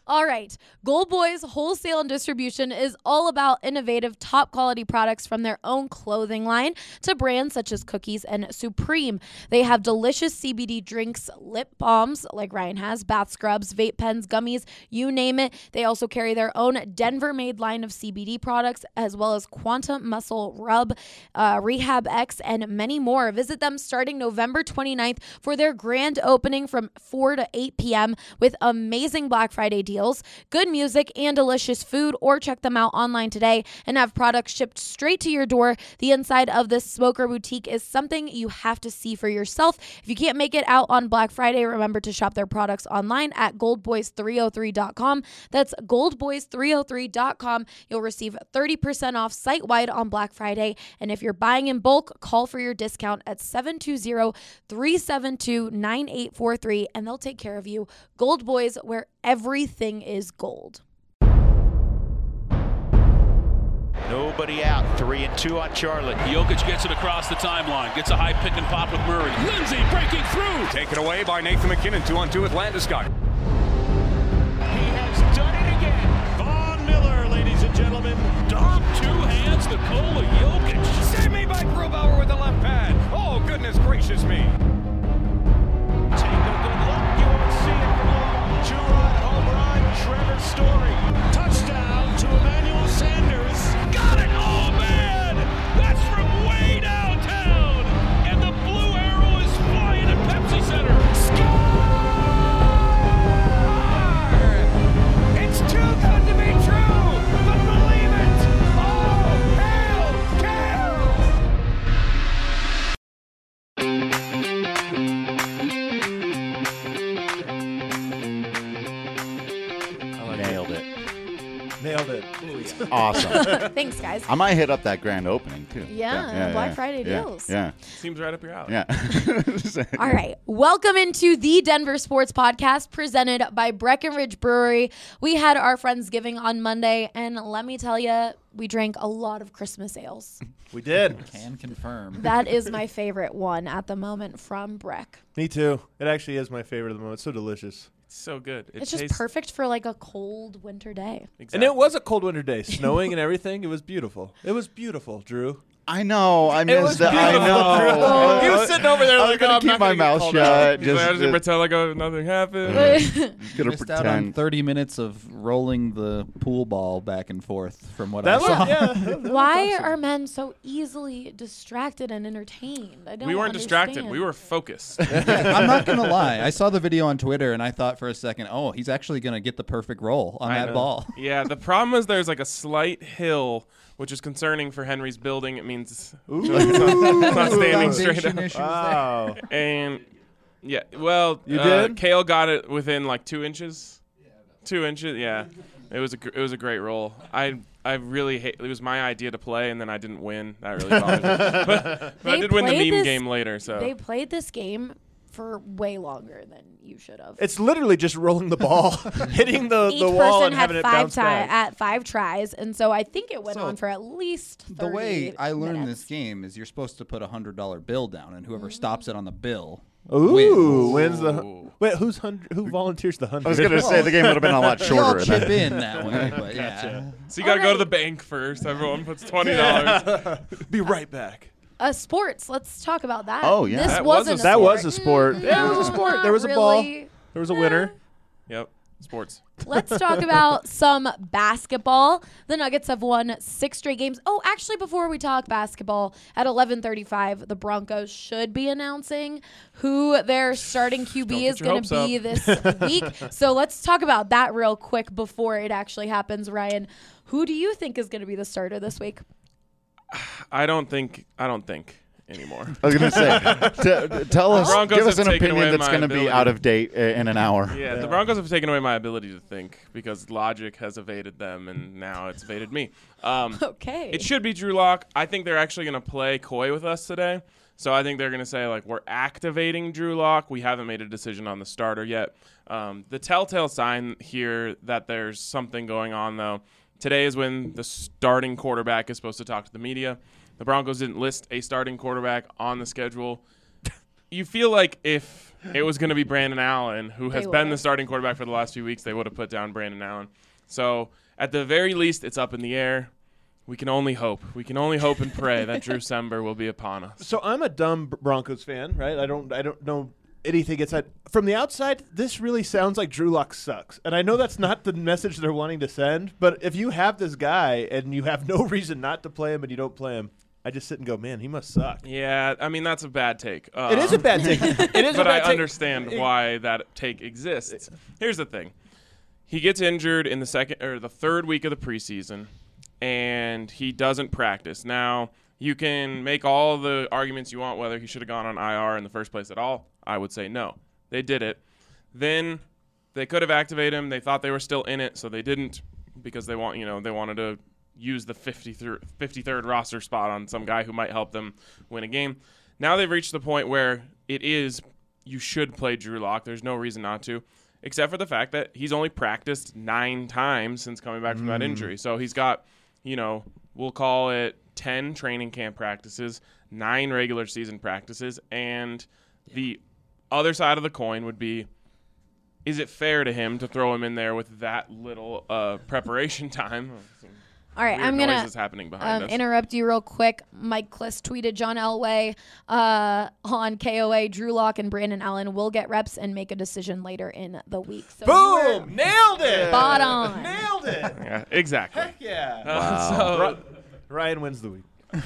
All right. Gold Boys Wholesale and Distribution is all about innovative, top quality products from their own clothing line to brands such as Cookies and Supreme. They have delicious CBD drinks, lip balms like Ryan has, bath scrubs, vape pens, gummies, you name it. They also carry their own Denver-made line of CBD products as well as Quantum Muscle Rub, Rehab X, and many more. Visit them starting November 29th for their grand opening from 4 to 8 p.m. with amazing Black Friday deals, good music, and delicious food, or check them out online today and have products shipped straight to your door. The inside of this smoker boutique is something you have to see for yourself. If you can't make it out on Black Friday, remember to shop their products online at goldboys303.com. That's goldboys303.com. You'll receive 30% off site-wide on Black Friday, and if you're buying in bulk, call for your discount at 720-372-9843, and they'll take care of you. Gold Boys, where everything is gold. Nobody out. 3-2 on Charlotte. Jokic gets it across the timeline. Gets a high pick and pop with Murray. Lindsay breaking through. Taken away by Nathan McKinnon. 2-on-2 with Landeskog. He has done it again. Von Miller, ladies and gentlemen. Dom, two hands, Nikola Jokic. Save me by Grubauer with the left pad. Oh, goodness gracious me. Take a good look. You won't see it from long. Two-run home run. Trevor Story. Touchdown to Emmanuel Sanders. Got it! Oh, man! That's from way downtown! And the blue arrow is flying at Pepsi Center. Score! It's too good to be true, but believe it. Oh, hail, Nailed it. Awesome. Thanks, guys. I might hit up that grand opening, too. Black Friday deals. Yeah. Seems right up your alley. Yeah. All right. Welcome into the Denver Sports Podcast presented by Breckenridge Brewery. We had our Friendsgiving on Monday, and let me tell you, we drank a lot of Christmas ales. We did. Can confirm. That is my favorite one at the moment from Breck. Me too. It actually is my favorite at the moment. It's so delicious. It's so good. It's just perfect for like a cold winter day. Exactly. And it was a cold winter day, snowing and everything. It was beautiful. It was beautiful, Drew. I know. I missed that. I beautiful, know. He was sitting over there I'm like, gonna keep my mouth shut. He's like, I was going to pretend like nothing happened. Gonna Missed out on pretend. 30 minutes of rolling the pool ball back and forth from what That I saw. Why are men so easily distracted and entertained? I don't We weren't understand. distracted. We were focused. I'm not going to lie. I saw the video on Twitter, and I thought for a second, oh, he's actually going to get the perfect roll on that ball. Yeah, the problem is there's like a slight hill, which is concerning for Henry's building. It means it's not standing straight up. Foundation issues Wow. And yeah, well, You did? Kale got it within like 2 inches. 2 inches, yeah. It was a great roll. I really hate. It was my idea to play, and then I didn't win. That really bothered me. But I did win the meme game later. So They played this game for way longer than you should have. It's literally just rolling the ball, hitting the Each wall, person and had having it bounce back. at 5 tries, and so I think it went So, on for at least 30 The way I learned minutes. this game is you're supposed to put a $100 bill down, and whoever stops it on the bill Ooh, wins. wins the. Ooh. Wait, who volunteers the 100? I was going to say the game would have been a lot They all shorter. than chip that. in that way, but yeah. So you got to go to Alright. the bank first. Everyone puts $20. Be right back. Sports. Let's talk about that. Oh, yeah. This That wasn't was a That sport. was a sport. Yeah, it was a sport. There was a ball. Really. There was a winner. Yep, sports. Let's talk about some basketball. The Nuggets have won 6 straight games. Oh, actually, before we talk basketball, at 11:35, the Broncos should be announcing who their starting QB Don't is get your going to hopes be this week. So let's talk about that real quick before it actually happens. Ryan, who do you think is going to be the starter this week? I don't think anymore. I was going to say, tell us, Broncos give us have an taken opinion away that's my going to be ability. out of date in an hour. Yeah, the Broncos have taken away my ability to think because logic has evaded them, and now it's evaded me. Okay. It should be Drew Lock. I think they're actually going to play coy with us today. So I think they're going to say, like, we're activating Drew Lock. We haven't made a decision on the starter yet. The telltale sign here that there's something going on, though, today is when the starting quarterback is supposed to talk to the media. The Broncos didn't list a starting quarterback on the schedule. you feel like if it was going to be Brandon Allen, who has They been would've. the starting quarterback for the last few weeks, they would have put down Brandon Allen. So at the very least, it's up in the air. We can only hope. We can only hope and pray that Drew Sember will be upon us. So I'm a dumb Broncos fan, right? I don't know anything inside. From the outside, this really sounds like Drew Lock sucks. And I know that's not the message they're wanting to send, but if you have this guy and you have no reason not to play him and you don't play him, I just sit and go, man, he must suck. Yeah, I mean, that's a bad take. It is a bad take. It is a But bad I take. understand why that take exists. Here's the thing. He gets injured in the third week of the preseason, and he doesn't practice. Now, you can make all the arguments you want whether he should have gone on IR in the first place at all. I would say no. They did it. Then they could have activated him. They thought they were still in it, so they didn't because they wanted to use the 53rd roster spot on some guy who might help them win a game. Now they've reached the point where you should play Drew Lock. There's no reason not to, except for the fact that he's only practiced 9 times since coming back from that injury. So he's got, we'll call it 10 training camp practices, 9 regular season practices, and the other side of the coin would be, is it fair to him to throw him in there with that little preparation time? All right, Weird I'm going noises happening behind us. interrupt you real quick. Mike Kliss tweeted John Elway on KOA, Drew Lock and Brandon Allen will get reps and make a decision later in the week. So you were Boom! Nailed it! spot on. Nailed it! Yeah, exactly. Heck yeah. So, Ryan wins the week.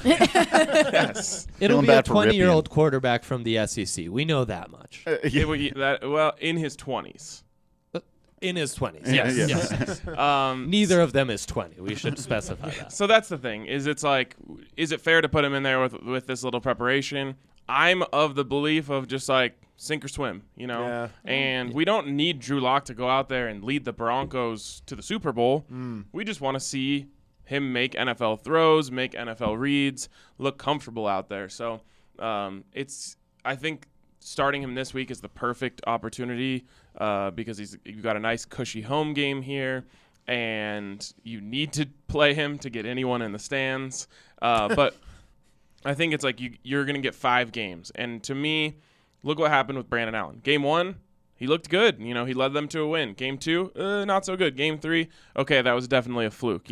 yes. It'll Feeling be a bad for Ripien. 20-year-old quarterback from the SEC. We know that much. In his 20s. In his 20s. Yeah, Yes. yes. yes. Neither of them is 20. We should specify that. So that's the thing. Is it fair to put him in there with this little preparation? I'm of the belief of just sink or swim, Yeah. And we don't need Drew Lock to go out there and lead the Broncos to the Super Bowl. We just want to see him make NFL throws, make NFL reads, look comfortable out there. So I think starting him this week is the perfect opportunity because you've got a nice cushy home game here, and you need to play him to get anyone in the stands. But I think it's you're going to get 5 games. And to me, look what happened with Brandon Allen. Game 1, he looked good. He led them to a win. Game 2, not so good. Game 3, okay, that was definitely a fluke,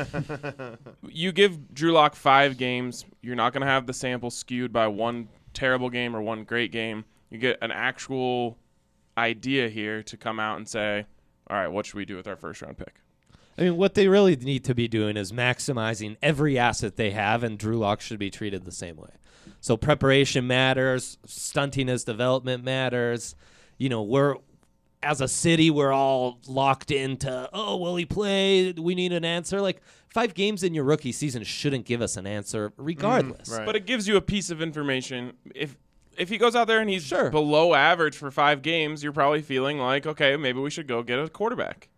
You give Drew Lock 5 games, you're not going to have the sample skewed by one terrible game or one great game. You get an actual idea here to come out and say, all right, what should we do with our first-round pick? I mean, what they really need to be doing is maximizing every asset they have, and Drew Lock should be treated the same way. So preparation matters, stunting his development matters. As a city, we're all locked into, will he play? We need an answer. 5 games in your rookie season shouldn't give us an answer regardless. Right. But it gives you a piece of information. If he goes out there and he's Sure. below average for 5 games, you're probably feeling like, okay, maybe we should go get a quarterback.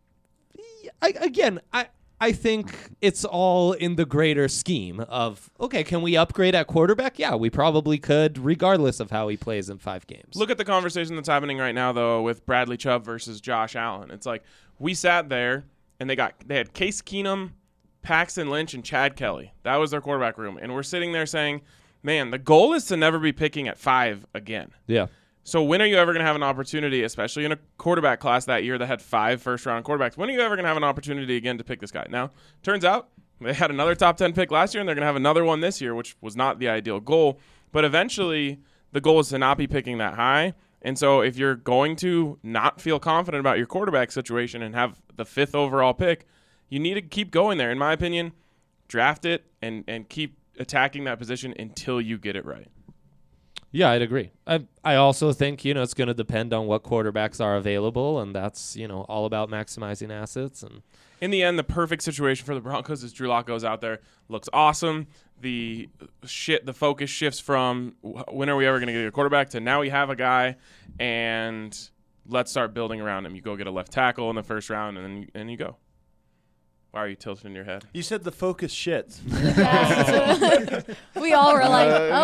I think it's all in the greater scheme of, okay, can we upgrade at quarterback? Yeah, we probably could, regardless of how he plays in 5 games. Look at the conversation that's happening right now, though, with Bradley Chubb versus Josh Allen. It's we sat there, and they had Case Keenum, Paxton Lynch, and Chad Kelly. That was their quarterback room. And we're sitting there saying, man, the goal is to never be picking at 5 again. Yeah. So when are you ever going to have an opportunity, especially in a quarterback class that year that had 5 first-round quarterbacks, when are you ever going to have an opportunity again to pick this guy? Now, turns out they had another top 10 pick last year, and they're going to have another one this year, which was not the ideal goal. But eventually, the goal is to not be picking that high. And so if you're going to not feel confident about your quarterback situation and have the 5th overall pick, you need to keep going there. In my opinion, draft it and keep attacking that position until you get it right. Yeah, I'd agree. I also think, it's going to depend on what quarterbacks are available, and that's, all about maximizing assets. And in the end, the perfect situation for the Broncos is Drew Lock goes out there, looks awesome. The focus shifts from when are we ever going to get a quarterback to now we have a guy, and let's start building around him. You go get a left tackle in the first round, and then you go. Why are you tilting your head? You said the focus shits. We all were like, oh.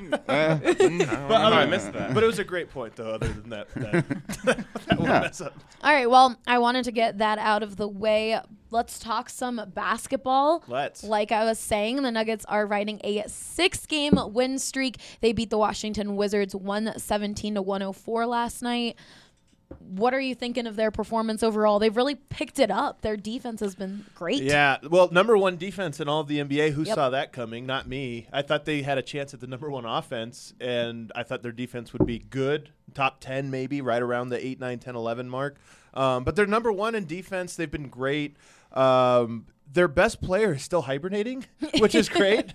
I missed that. But it was a great point, though. Other than that one mess up. All right, well, I wanted to get that out of the way. Let's talk some basketball. Let's. Like I was saying, the Nuggets are riding a 6-game win streak. They beat the Washington Wizards 117-104 last night. What are you thinking of their performance overall? They've really picked it up. Their defense has been great. Yeah, well, number one defense in all of the NBA. Who Yep. saw that coming? Not me. I thought they had a chance at the number one offense, and I thought their defense would be good, top 10 maybe, right around the 8, 9, 10, 11 mark. But they're number one in defense. They've been great. Their best player is still hibernating, which is great.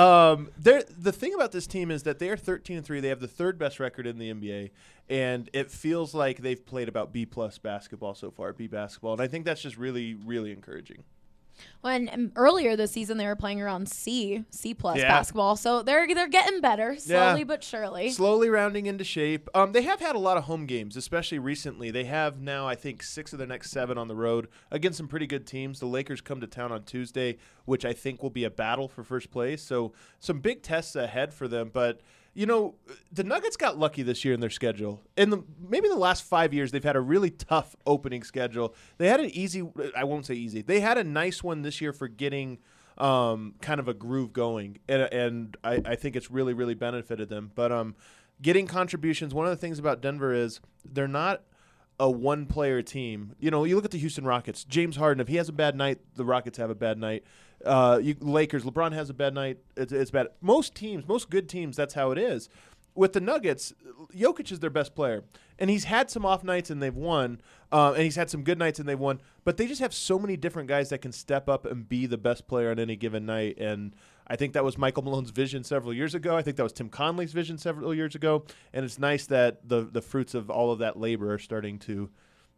The thing about this team is that they are 13-3. They have the third best record in the NBA, and it feels like they've played about B-plus basketball so far, B basketball, and I think that's just really, really encouraging. And earlier this season, they were playing around C-plus Yeah. basketball. So they're getting better, slowly but surely. Slowly rounding into shape. They have had a lot of home games, especially recently. They have now, I think, 6 of their next 7 on the road against some pretty good teams. The Lakers come to town on Tuesday, which I think will be a battle for first place. So some big tests ahead for them. But, you know, the Nuggets got lucky this year in their schedule. Maybe the last 5 years, they've had a really tough opening schedule. They had an easy – I won't say easy. They had a nice one this year for getting kind of a groove going, and I think it's really, really benefited them. But getting contributions, one of the things about Denver is they're not a one-player team. You know, you look at the Houston Rockets. James Harden, if he has a bad night, the Rockets have a bad night. Lakers, LeBron has a bad night. It's bad. Most teams, most good teams, that's how it is. With the Nuggets, Jokic is their best player, and he's had some off nights and they've won, and he's had some good nights and they've won. But they just have so many different guys that can step up and be the best player on any given night. And I think that was Michael Malone's vision several years ago. I think that was Tim Conley's vision several years ago. And it's nice that the fruits of all of that labor are starting to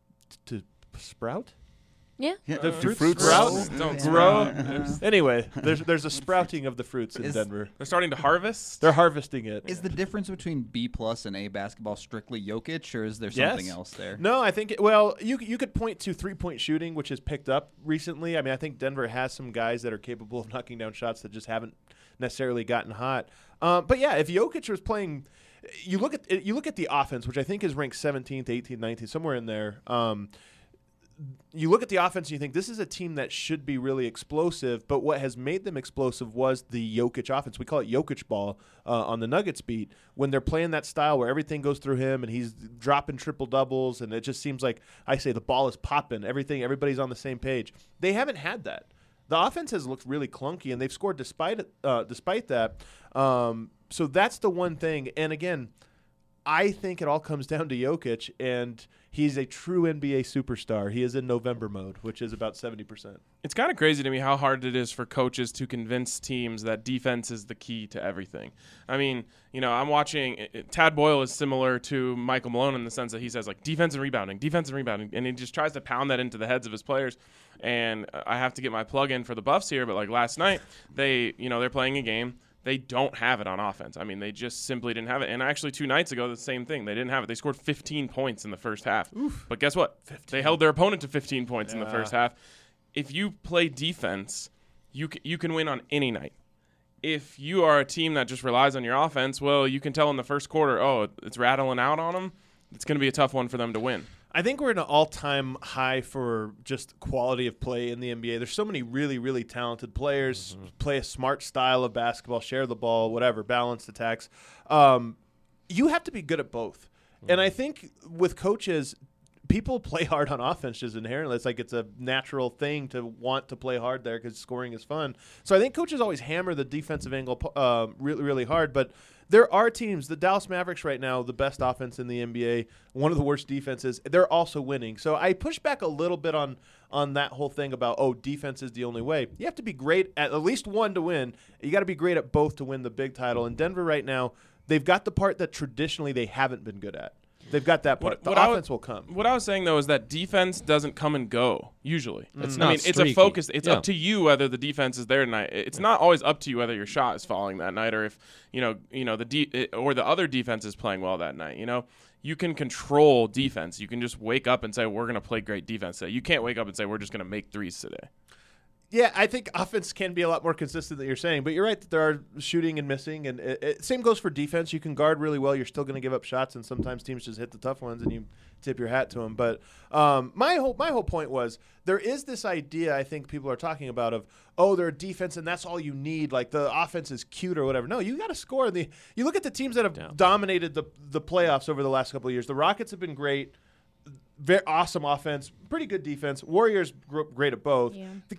sprout. Yeah. The fruits fruits sprout, Don't grow. Anyway, there's a sprouting of the fruits in Denver. They're starting to harvest. They're harvesting it. Is the difference between B-plus and A basketball strictly Jokic, or is there Yes. something else there? No, I think you could point to 3-point shooting, which has picked up recently. I mean, I think Denver has some guys that are capable of knocking down shots that just haven't necessarily gotten hot. But yeah, if Jokic was playing, you look at the offense, which I think is ranked 17th, 18th, 19th, somewhere in there. You look at the offense and you think this is a team that should be really explosive, but what has made them explosive was the Jokic offense. We call it Jokic ball on the Nuggets beat. When they're playing that style where everything goes through him and he's dropping triple-doubles and it just seems like, I say, the ball is popping. Everybody's on the same page. They haven't had that. The offense has looked really clunky, and they've scored despite that. So that's the one thing. And, again, I think it all comes down to Jokic, and he's a true NBA superstar. He is in November mode, which is about 70%. It's kind of crazy to me how hard it is for coaches to convince teams that defense is the key to everything. I mean, you know, I'm watching Tad Boyle is similar to Michael Malone in the sense that he says, like, defense and rebounding, and he just tries to pound that into the heads of his players. And I have to get my plug in for the Buffs here, but, like, last night, they're playing a game. They don't have it on offense. I mean, they just simply didn't have it. And actually 2 nights ago, the same thing. They didn't have it. They scored 15 points in the first half. Oof. But guess what? 15. They held their opponent to 15 points in the first half. If you play defense, you can win on any night. If you are a team that just relies on your offense, well, you can tell in the first quarter, oh, it's rattling out on them. It's going to be a tough one for them to win. I think we're in an all-time high for just quality of play in the NBA. There's so many really, really talented players, play a smart style of basketball, share the ball, whatever, balanced attacks. You have to be good at both. And I think with coaches, people play hard on offense just inherently. It's like it's a natural thing to want to play hard there because scoring is fun. So I think coaches always hammer the defensive angle really, really hard. But there are teams, the Dallas Mavericks right now, the best offense in the NBA, one of the worst defenses. They're also winning. So I push back a little bit on that whole thing about, defense is the only way. You have to be great at least one to win. You got to be great at both to win the big title. And Denver right now, they've got the part that traditionally they haven't been good at. They've got that part. The offense will come. What I was saying, though, is that defense doesn't come and go, usually. It's I mean, not it's a streaky. focus. It's Yeah. up to you whether the defense is there tonight. It's not always up to you whether your shot is falling that night or if, or the other defense is playing well that night, You can control defense. You can just wake up and say, we're going to play great defense today. You can't wake up and say, we're just going to make threes today. Yeah, I think offense can be a lot more consistent than you're saying, but you're right that there are shooting and missing, and same goes for defense. You can guard really well. You're still going to give up shots, and sometimes teams just hit the tough ones, and you tip your hat to them. But my whole point was there is this idea I think people are talking about of, oh, they're a defense, and that's all you need. Like the offense is cute or whatever. No, you got to score. You look at the teams that have dominated the playoffs over the last couple of years. The Rockets have been great. Very awesome offense, pretty good defense. Warriors great at both. Yeah. The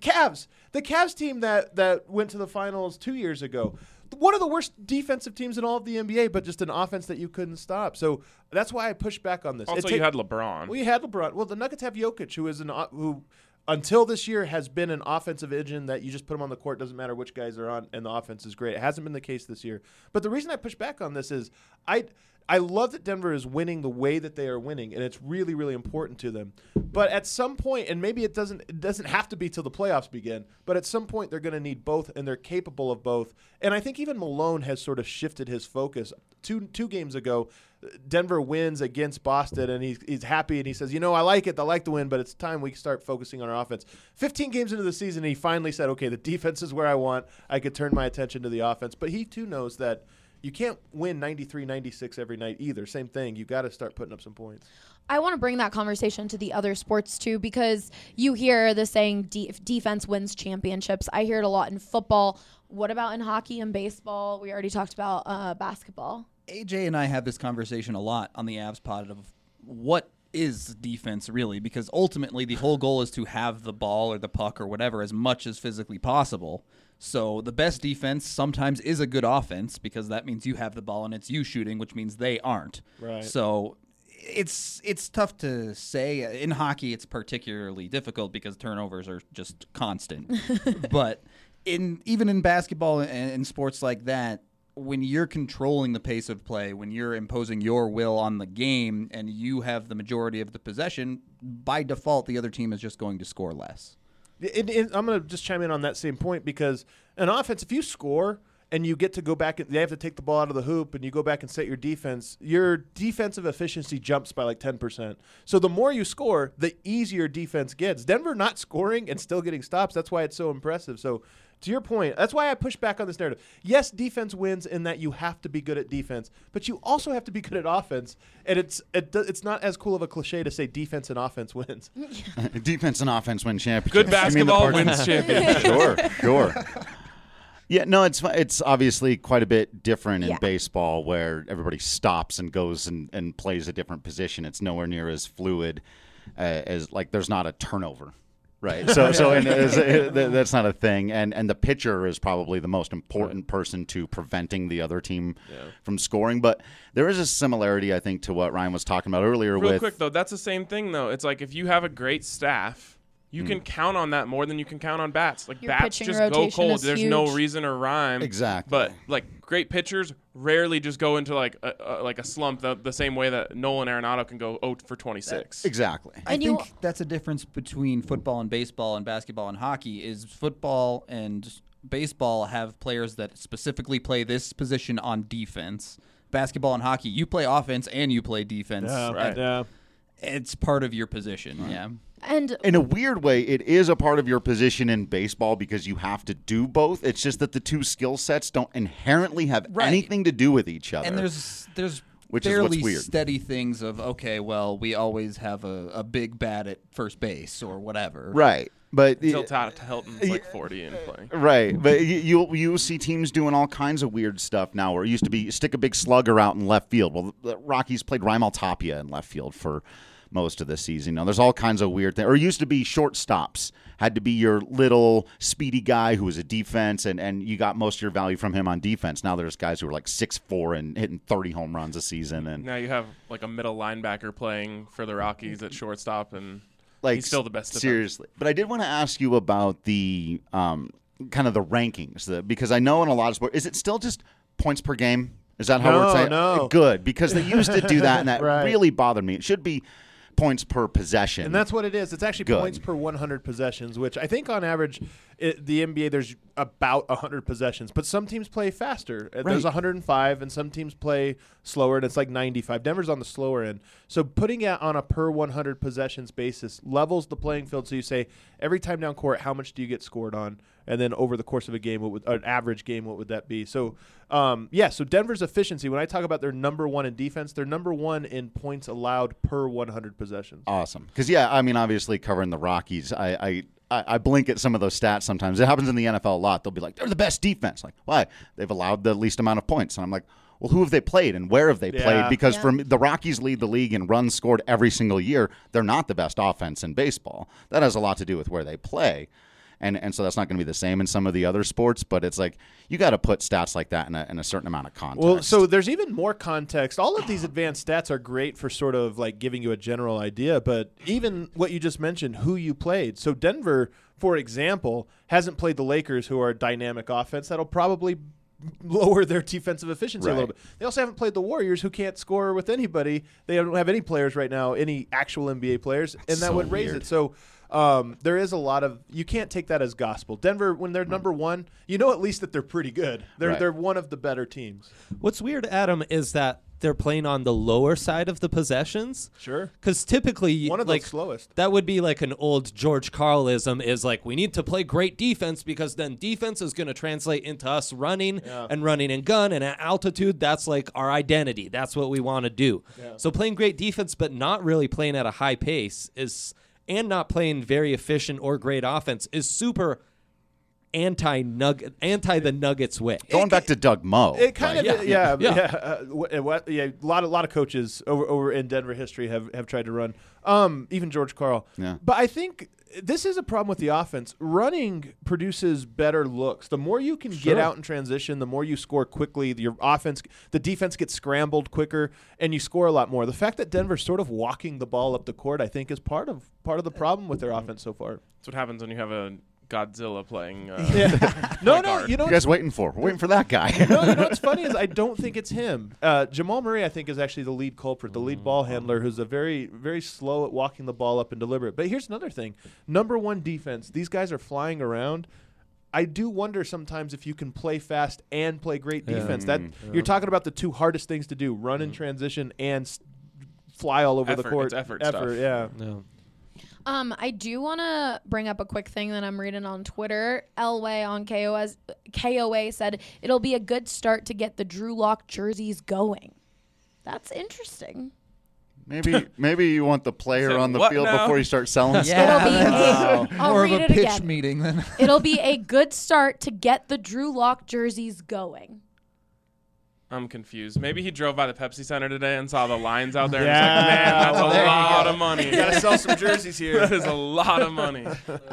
Cavs team that went to the finals 2 years ago, one of the worst defensive teams in all of the NBA, but just an offense that you couldn't stop. So that's why I push back on this. Also, you had LeBron. We had LeBron. Well, the Nuggets have Jokic, who until this year has been an offensive engine that you just put him on the court, doesn't matter which guys are on, and the offense is great. It hasn't been the case this year. But the reason I push back on this is I love that Denver is winning the way that they are winning, and it's really, really important to them. But at some point, and maybe it doesn't have to be till the playoffs begin, but at some point they're going to need both, and they're capable of both. And I think even Malone has sort of shifted his focus. Two games ago, Denver wins against Boston, and he's happy, and he says, I like it. I like the win, but it's time we start focusing on our offense. 15 games into the season, he finally said, okay, the defense is where I want. I could turn my attention to the offense. But he, too, knows that you can't win 93-96 every night either. Same thing. You got to start putting up some points. I want to bring that conversation to the other sports too, because you hear the saying defense wins championships. I hear it a lot in football. What about in hockey and baseball? We already talked about basketball. AJ and I have this conversation a lot on the Avs pod of what is defense really, because ultimately the whole goal is to have the ball or the puck or whatever as much as physically possible. So the best defense sometimes is a good offense, because that means you have the ball and it's you shooting, which means they aren't. Right. So it's tough to say. In hockey, it's particularly difficult because turnovers are just constant. But even in basketball and sports like that, when you're controlling the pace of play, when you're imposing your will on the game and you have the majority of the possession, by default, the other team is just going to score less. I'm going to just chime in on that same point, because an offense, if you score and you get to go back, they have to take the ball out of the hoop, and you go back and set your defensive efficiency jumps by like 10%. So the more you score, the easier defense gets. Denver not scoring and still getting stops, that's why it's so impressive. So to your point, that's why I push back on this narrative. Yes, defense wins in that you have to be good at defense, but you also have to be good at offense. And it's not as cool of a cliche to say defense and offense wins. Defense and offense win championships. Good basketball wins championships. Sure. Yeah, no, it's obviously quite a bit different in baseball, where everybody stops and goes and plays a different position. It's nowhere near as fluid as, like, there's not a turnover. Right. So that's not a thing. And the pitcher is probably the most important person to preventing the other team from scoring. But there is a similarity, I think, to what Ryan was talking about earlier. Real quick, though, that's the same thing, though. It's like if you have a great staff, you can count on that more than you can count on bats. Like, Your bats pitching just go rotation cold. is There's huge. no reason or rhyme. Exactly. But, like, great pitchers rarely just go into, like a slump the same way that Nolan Arenado can go 0 for 26. Exactly. I think that's a difference between football and baseball and basketball and hockey. Is football and baseball have players that specifically play this position on defense. Basketball and hockey, you play offense and you play defense. Yeah. It's part of your position. Right. Yeah. And in a weird way, it is a part of your position in baseball because you have to do both. It's just that the two skill sets don't inherently have anything to do with each other. And there's which fairly is what's weird. Steady things of, okay, well, we always have a big bat at first base or whatever. Right. But Until Todd Hilton's like 40 and playing. Right. But you see teams doing all kinds of weird stuff now, where it used to be stick a big slugger out in left field. Well, the Rockies played Raimel Tapia in left field for most of the season. Now, there's all kinds of weird things. Or it used to be shortstops. Had to be your little speedy guy who was a defense, and you got most of your value from him on defense. Now there's guys who are like 6'4" and hitting 30 home runs a season. And now you have like a middle linebacker playing for the Rockies at shortstop, and like, he's still the best. Seriously. But I did want to ask you about the kind of the rankings, because I know in a lot of sports, is it still just points per game? Is that how we're saying? No. Good, because they used to do that, and that really bothered me. It should be points per possession. And that's what it is. It's actually points per 100 possessions, which I think on average, the NBA, there's about 100 possessions, but some teams play faster. There's 105, and some teams play slower, and it's like 95. Denver's on the slower end. So putting it on a per 100 possessions basis levels the playing field. So you say every time down court, how much do you get scored on? And then over the course of a game, an average game, what would that be? So, so Denver's efficiency, when I talk about their number one in defense, they're number one in points allowed per 100 possessions. Awesome. Because, obviously covering the Rockies, I blink at some of those stats sometimes. It happens in the NFL a lot. They'll be like, they're the best defense. Like, why? They've allowed the least amount of points. And I'm like, well, who have they played and where have they played? Because for me, the Rockies lead the league in runs scored every single year. They're not the best offense in baseball. That has a lot to do with where they play. And so that's not going to be the same in some of the other sports, but it's like you got to put stats like that in a certain amount of context. Well, so there's even more context. All of these advanced stats are great for sort of like giving you a general idea, but even what you just mentioned, who you played. So Denver, for example, hasn't played the Lakers, who are a dynamic offense that'll probably lower their defensive efficiency a little bit. They also haven't played the Warriors, who can't score with anybody. They don't have any players right now, any actual NBA players, and that would raise it. So there is a lot of – you can't take that as gospel. Denver, when they're number one, you know at least that they're pretty good. They're one of the better teams. What's weird, Adam, is that they're playing on the lower side of the possessions. Sure. Because typically, one of the slowest. That would be like an old George Karlism is like, we need to play great defense because then defense is going to translate into us running and running and gun. And at altitude, that's like our identity. That's what we want to do. Yeah. So playing great defense but not really playing at a high pace and not playing very efficient or great offense is super anti the Nuggets way. Going back to Doug Moe. It kind of a lot of coaches over in Denver history have tried to run. Even George Karl. Yeah. But I think this is a problem with the offense. Running produces better looks. The more you can get out in transition, the more you score quickly. The defense gets scrambled quicker, and you score a lot more. The fact that Denver's sort of walking the ball up the court, I think, is part of the problem with their offense so far. That's what happens when you have a Godzilla playing. No, you guys waiting for? We're waiting for that guy. No, what's funny is I don't think it's him. Jamal Murray, I think, is actually the lead culprit, the lead ball handler, who's a very, very slow at walking the ball up and deliberate. But here's another thing: number one defense. These guys are flying around. I do wonder sometimes if you can play fast and play great defense. You're talking about the two hardest things to do: run in transition and fly all over the court. It's effort stuff. Yeah. I do want to bring up a quick thing that I'm reading on Twitter. Elway on KOA said it'll be a good start to get the Drew Lock jerseys going. That's interesting. Maybe you want the player on the field before you start selling stuff. It'll be more of a pitch meeting then. It'll be a good start to get the Drew Lock jerseys going. I'm confused. Maybe he drove by the Pepsi Center today and saw the lines out there and was like, man, that's a lot of money. You got to sell some jerseys here. That is a lot of money. They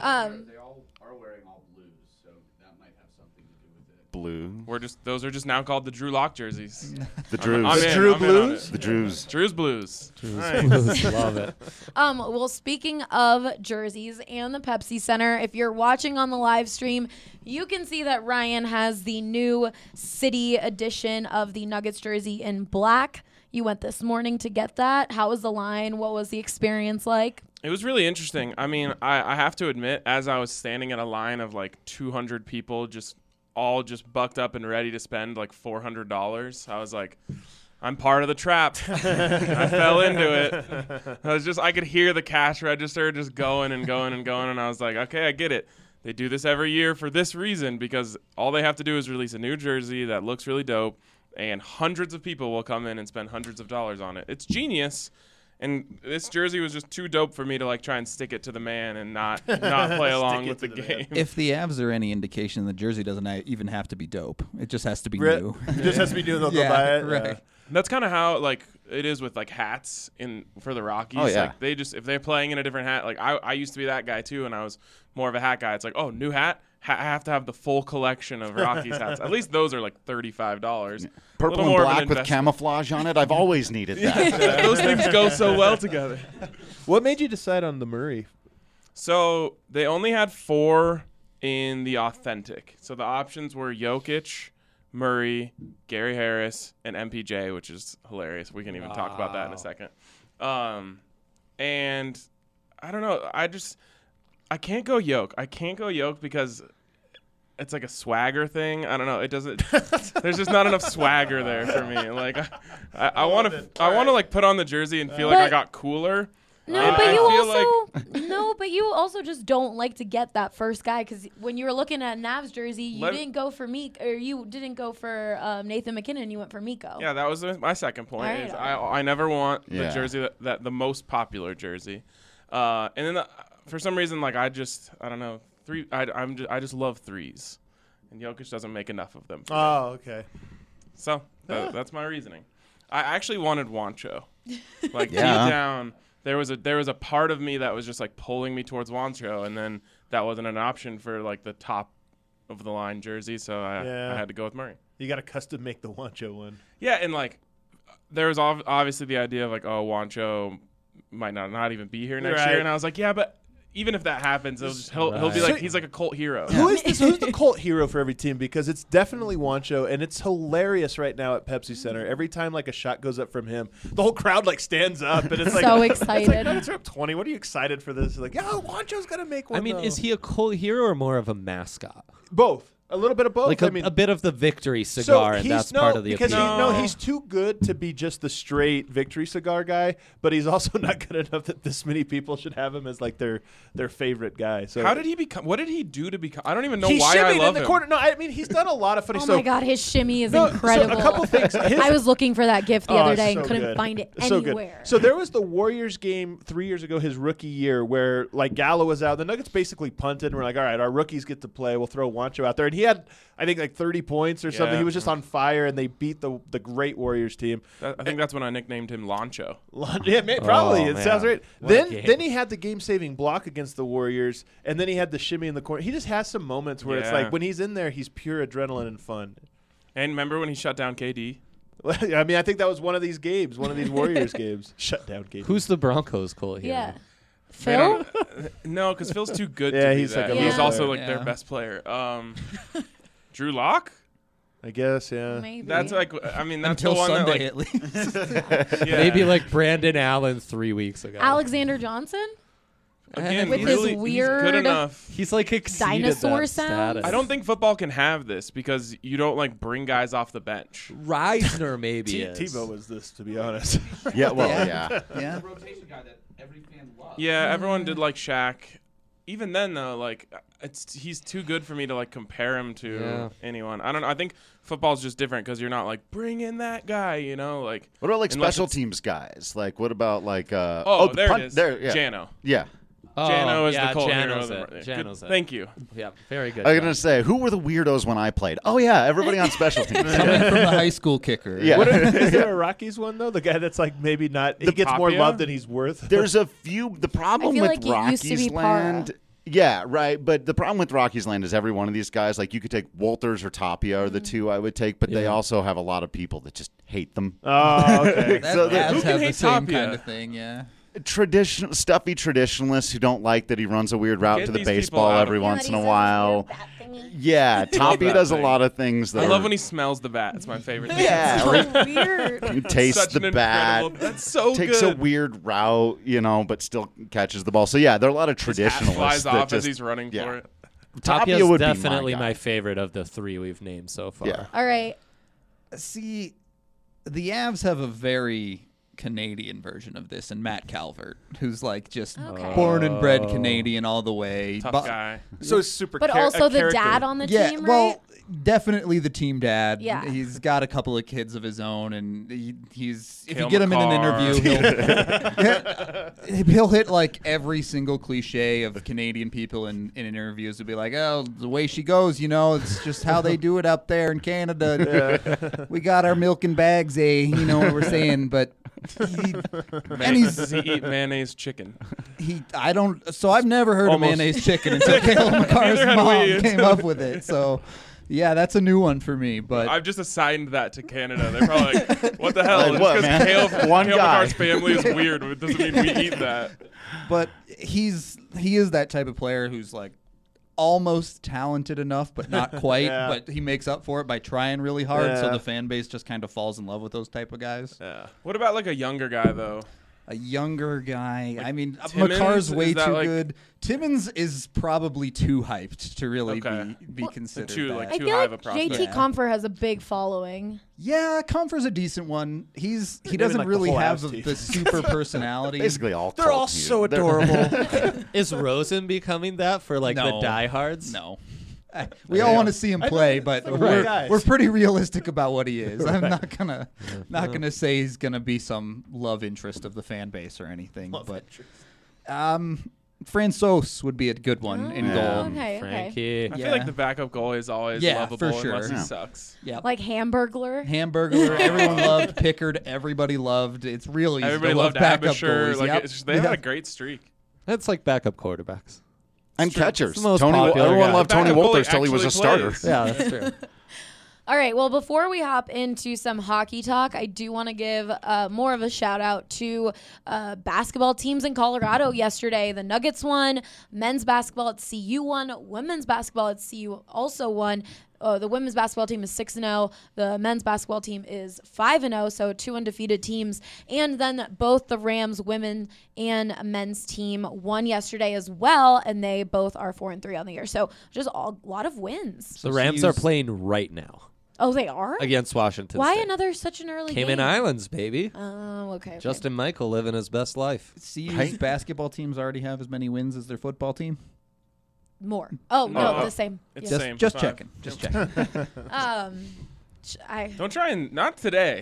all are wearing all blues, so that might have something to do with it. Blue. Those are just now called the Drew Lock jerseys. The Drews. The Drew Blues? The Drews. Drew's Blues. Nice. Love it. Well, speaking of jerseys and the Pepsi Center, if you're watching on the live stream, you can see that Ryan has the new city edition of the Nuggets jersey in black. You went this morning to get that. How was the line? What was the experience like? It was really interesting. I mean, I have to admit, as I was standing in a line of like 200 people all bucked up and ready to spend like $400, I was like, I'm part of the trap. I fell into it. I could hear the cash register just going and going and going, and I was like, okay, I get it. They do this every year for this reason, because all they have to do is release a new jersey that looks really dope, and hundreds of people will come in and spend hundreds of dollars on it. It's genius. And this jersey was just too dope for me to like try and stick it to the man and not play along with the game. If the Avs are any indication, the jersey doesn't even have to be dope. It just has to be new. It just has to be new. They'll buy it. Right. That's kind of how like it is with like hats for the Rockies. Oh, yeah. Like they just, if they're playing in a different hat, like I used to be that guy too, and I was more of a hat guy. It's like, oh, new hat. I have to have the full collection of Rockies hats. At least those are like $35. Purple and black with camouflage on it. I've always needed that. Those things go so well together. What made you decide on the Murray? So they only had 4 in the authentic. So the options were Jokic, Murray, Gary Harris, and MPJ, which is hilarious. We can even talk about that in a second. And I don't know. I can't go Yoke. I can't go Yoke because it's like a swagger thing. I don't know. It doesn't. There's just not enough swagger there for me. Like I want to like put on the jersey and feel like I got cooler. No, but you also just don't like to get that first guy because when you were looking at Nav's jersey, you didn't go for you didn't go for Nathan McKinnon. You went for Miko. Yeah, that was my second point. Right. Is I never want the jersey that the most popular jersey, and then for some reason like I don't know I just love threes, and Jokic doesn't make enough of them. Oh, okay. So that's my reasoning. I actually wanted Juancho, like deep down. There was a part of me that was just like pulling me towards Juancho, and then that wasn't an option for like the top of the line jersey, so I had to go with Murray. You got to custom make the Juancho one. Yeah, and like there was obviously the idea of like, oh, Juancho might not even be here next year, and I was like, yeah, but even if that happens, he'll be like he's like a cult hero. Who's the cult hero for every team? Because it's definitely Juancho, and it's hilarious right now at Pepsi Center. Every time like a shot goes up from him, the whole crowd like stands up, and it's like so excited. It's like, Nuggets are up 20. What are you excited for this? Like, Juancho's gonna make one. I mean, is he a cult hero or more of a mascot? Both. A little bit of both. Like a bit of the victory cigar, and that's part of the appeal. He's too good to be just the straight victory cigar guy, but he's also not good enough that this many people should have him as like their favorite guy. So how did he become? What did he do to become? I don't even know why I love in the him. Corner. No, I mean he's done a lot of funny. Oh my God, his shimmy is incredible. So a couple things. I was looking for that gift the other day and couldn't find it anywhere. So there was the Warriors game 3 years ago, his rookie year, where like Gallo was out. The Nuggets basically punted, and we're like, all right, our rookies get to play. We'll throw Juancho out there, and he had, I think, like 30 points or something. He was just on fire, and they beat the great Warriors team. I think that's when I nicknamed him Loncho. Yeah, probably. It sounds right. Then he had the game-saving block against the Warriors, and then he had the shimmy in the corner. He just has some moments where it's like when he's in there, he's pure adrenaline and fun. And remember when he shut down KD? I mean, I think that was one of these games, one of these Warriors games. Shut down KD. Who's the Broncos cult hero? Yeah. Phil? No, because Phil's too good to be that. He's also like their best player. Drew Lock? I guess, yeah. Maybe. That's like, I mean, that's until the one Sunday that, like, at least. Maybe like Brandon Allen 3 weeks ago. Alexander Johnson? Again, with really, his weird he's good enough. He's like exceeded dinosaur that sound. status. I don't think football can have this because you don't like bring guys off the bench. Reisner maybe is. Tebow was this, to be honest. Yeah, well, yeah. The rotation guy that every fan loves. Yeah, everyone did like Shaq. Even then, though, like he's too good for me to like compare him to anyone. I don't know. I think football's just different because you're not like bring in that guy, you know. Like what about like special teams guys? Like what about like there it is. There, yeah. Jano. Yeah. Jano is the cult Jano's hero. it. Jano's it. Thank you. Yeah, very good. I was gonna say, who were the weirdos when I played? Oh yeah, everybody on special teams. Coming from the high school kicker. Yeah. Is there a Rockies one though? The guy that's like maybe not. He gets more love than he's worth. There's a few. The problem feel with like it used to be Rockies land. Yeah, right. But the problem with Rockies land is every one of these guys, like you could take Walters or Tapia are the two I would take, but they also have a lot of people that just hate them. Oh, okay. So who can have the hate same Tapia? kind of thing, yeah. Stuffy traditionalists who don't like that he runs a weird route Get to the these people baseball out of every here. once in a while. Yeah, Tapia that does a thing. lot of things that I love are- when he smells the bat. It's my favorite thing. Yeah, So like, weird. he tastes Such the an bat. incredible- That's so takes good. a weird route, you know, but still catches the ball. So yeah, there are a lot of His hat traditionalists flies that off just as he's running for it. Tapia Tapia's would definitely be my guy. favorite of the three we've named so far. Yeah. All right. See, the Avs have a very Canadian version of this, and Matt Calvert, who's like just Okay. born and bred Canadian all the way. Tough guy. So it's super. But also the dad on the Yeah, team, well, right? definitely the team dad. Yeah. He's got a couple of kids of his own, and he's if Cale you get him in an McCarr. interview, he'll hit like every single cliche of Canadian people in interviews. To be like, oh, the way she goes, you know, it's just how they do it up there in Canada. We got our milk and bags, you know what we're saying, but. Does he eat mayonnaise chicken? So I've never heard of mayonnaise chicken until Cale McCarr's Neither had mom we. came up with it. So, yeah, that's a new one for me. But I've just assigned that to Canada. They're probably like, what the hell? Like Just what, because man? Cale One guy. McCarr's family is weird, it doesn't mean we eat that. But he is that type of player who's like almost talented enough, but not quite. Yeah. But he makes up for it by trying really hard. So Yeah. the fan base just kind of falls in love with those type of guys. Yeah. What about like a younger guy though? a younger guy. I mean, Timmons, McCarr's way is that too like- good. Timmons is probably too hyped to really Okay. be considered. Too, that. like, I too feel high like of a prospect. JT Yeah. Compher has a big following. Yeah, Comfort's a decent one. He Naming, doesn't like, the really whole have Avs team. the super personality. Basically, all They're all cult so music. adorable. Is Rosen becoming that for like No. the diehards? No. We all want to see him play, but like white we're, guys. we're pretty realistic about what he is. I'm not gonna say he's gonna be some love interest of the fan base or anything. But Francois would be a good one in Yeah. goal. Okay. Frankie. I feel Yeah. like the backup goalie is always Yeah, lovable for sure. unless he Yeah. sucks. Yep. Like Hamburglar. Hamburger, everyone loved. Pickard, everybody loved. It's really easy Everybody to love loved backup Abisher. goalies. Like Yep. they had a Yep. great streak. That's like backup quarterbacks. And catchers. It's the most Tony, popular everyone guy. loved Tony Backup Walters goalie till he was a actually starter. plays. Yeah, that's true. All right. Well, before we hop into some hockey talk, I do want to give more of a shout out to basketball teams in Colorado yesterday. The Nuggets won. Men's basketball at CU won. Women's basketball at CU also won. The women's basketball team is 6-0. The men's basketball team is 5-0, so 2 undefeated teams. And then both the Rams women and men's team won yesterday as well, and they both are 4-3 on the year. So just a lot of wins. The Rams are playing right now Oh, they are? against Washington Why State. another such an early Cayman game? Islands, baby. Oh, okay. Justin Michael living his best life. CU's Right. basketball teams already have as many wins as their football team. More. Oh, no, No. the same. It's Yeah. the same. Just Five. checking. Just checking. Don't try and not today.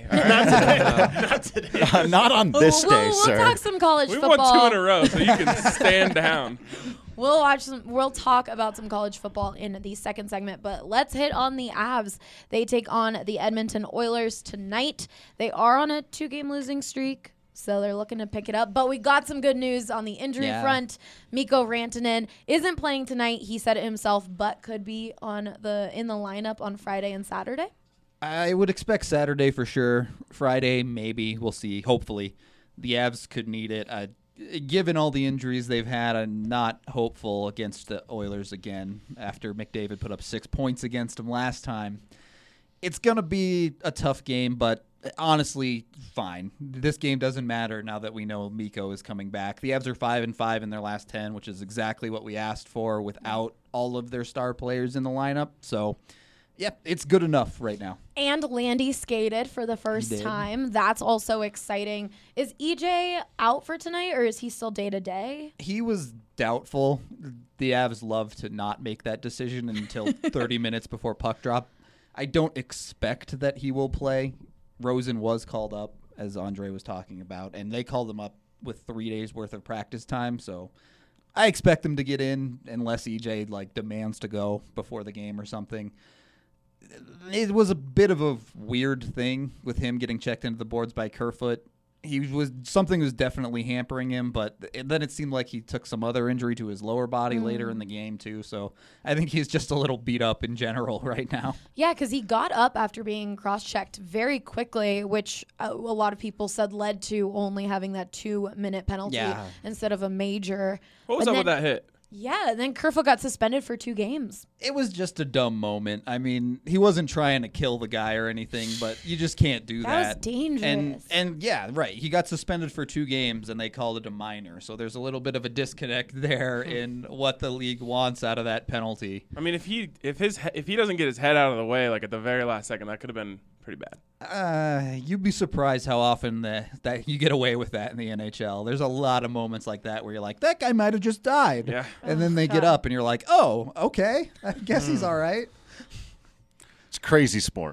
Not on this we'll, day, we'll sir. talk some college We football. won 2 in a row, so you can stand down. We'll talk about some college football in the second segment, but let's hit on the Avs. They take on the Edmonton Oilers tonight. They are on a 2-game losing streak, so they're looking to pick it up. But we got some good news on the injury front. Mikko Rantanen isn't playing tonight. He said it himself, but could be in the lineup on Friday and Saturday. I would expect Saturday for sure. Friday, maybe. We'll see. Hopefully. The Avs could need it. Given all the injuries they've had, I'm not hopeful against the Oilers again after McDavid put up 6 points against them last time. It's going to be a tough game, but honestly, fine. This game doesn't matter now that we know Mikko is coming back. The Avs are 5-5 in their last 10, which is exactly what we asked for without all of their star players in the lineup. So, yep, it's good enough right now. And Landy skated for the first time. That's also exciting. Is EJ out for tonight, or is he still day-to-day? He was doubtful. The Avs love to not make that decision until 30 minutes before puck drop. I don't expect that he will play. Rosen was called up, as Andre was talking about, and they called him up with 3 days worth of practice time. So I expect him to get in unless EJ demands to go before the game or something. It was a bit of a weird thing with him getting checked into the boards by Kerfoot. Something was definitely hampering him, but then it seemed like he took some other injury to his lower body later in the game too. So I think he's just a little beat up in general right now. Yeah, because he got up after being cross-checked very quickly, which a lot of people said led to only having that 2-minute penalty instead of a major. What was But up with then- that hit? Yeah, and then Kerfoot got suspended for 2 games. It was just a dumb moment. I mean, he wasn't trying to kill the guy or anything, but you just can't do that. That was dangerous. And yeah, right. He got suspended for 2 games, and they called it a minor. So there's a little bit of a disconnect there in what the league wants out of that penalty. I mean, if he doesn't get his head out of the way, like at the very last second, that could have been pretty bad. You'd be surprised how often that you get away with that in the NHL. There's a lot of moments like that where you're like, that guy might have just died. Yeah. And then they get up, and you're like, oh, okay. I guess he's all right. It's crazy sport.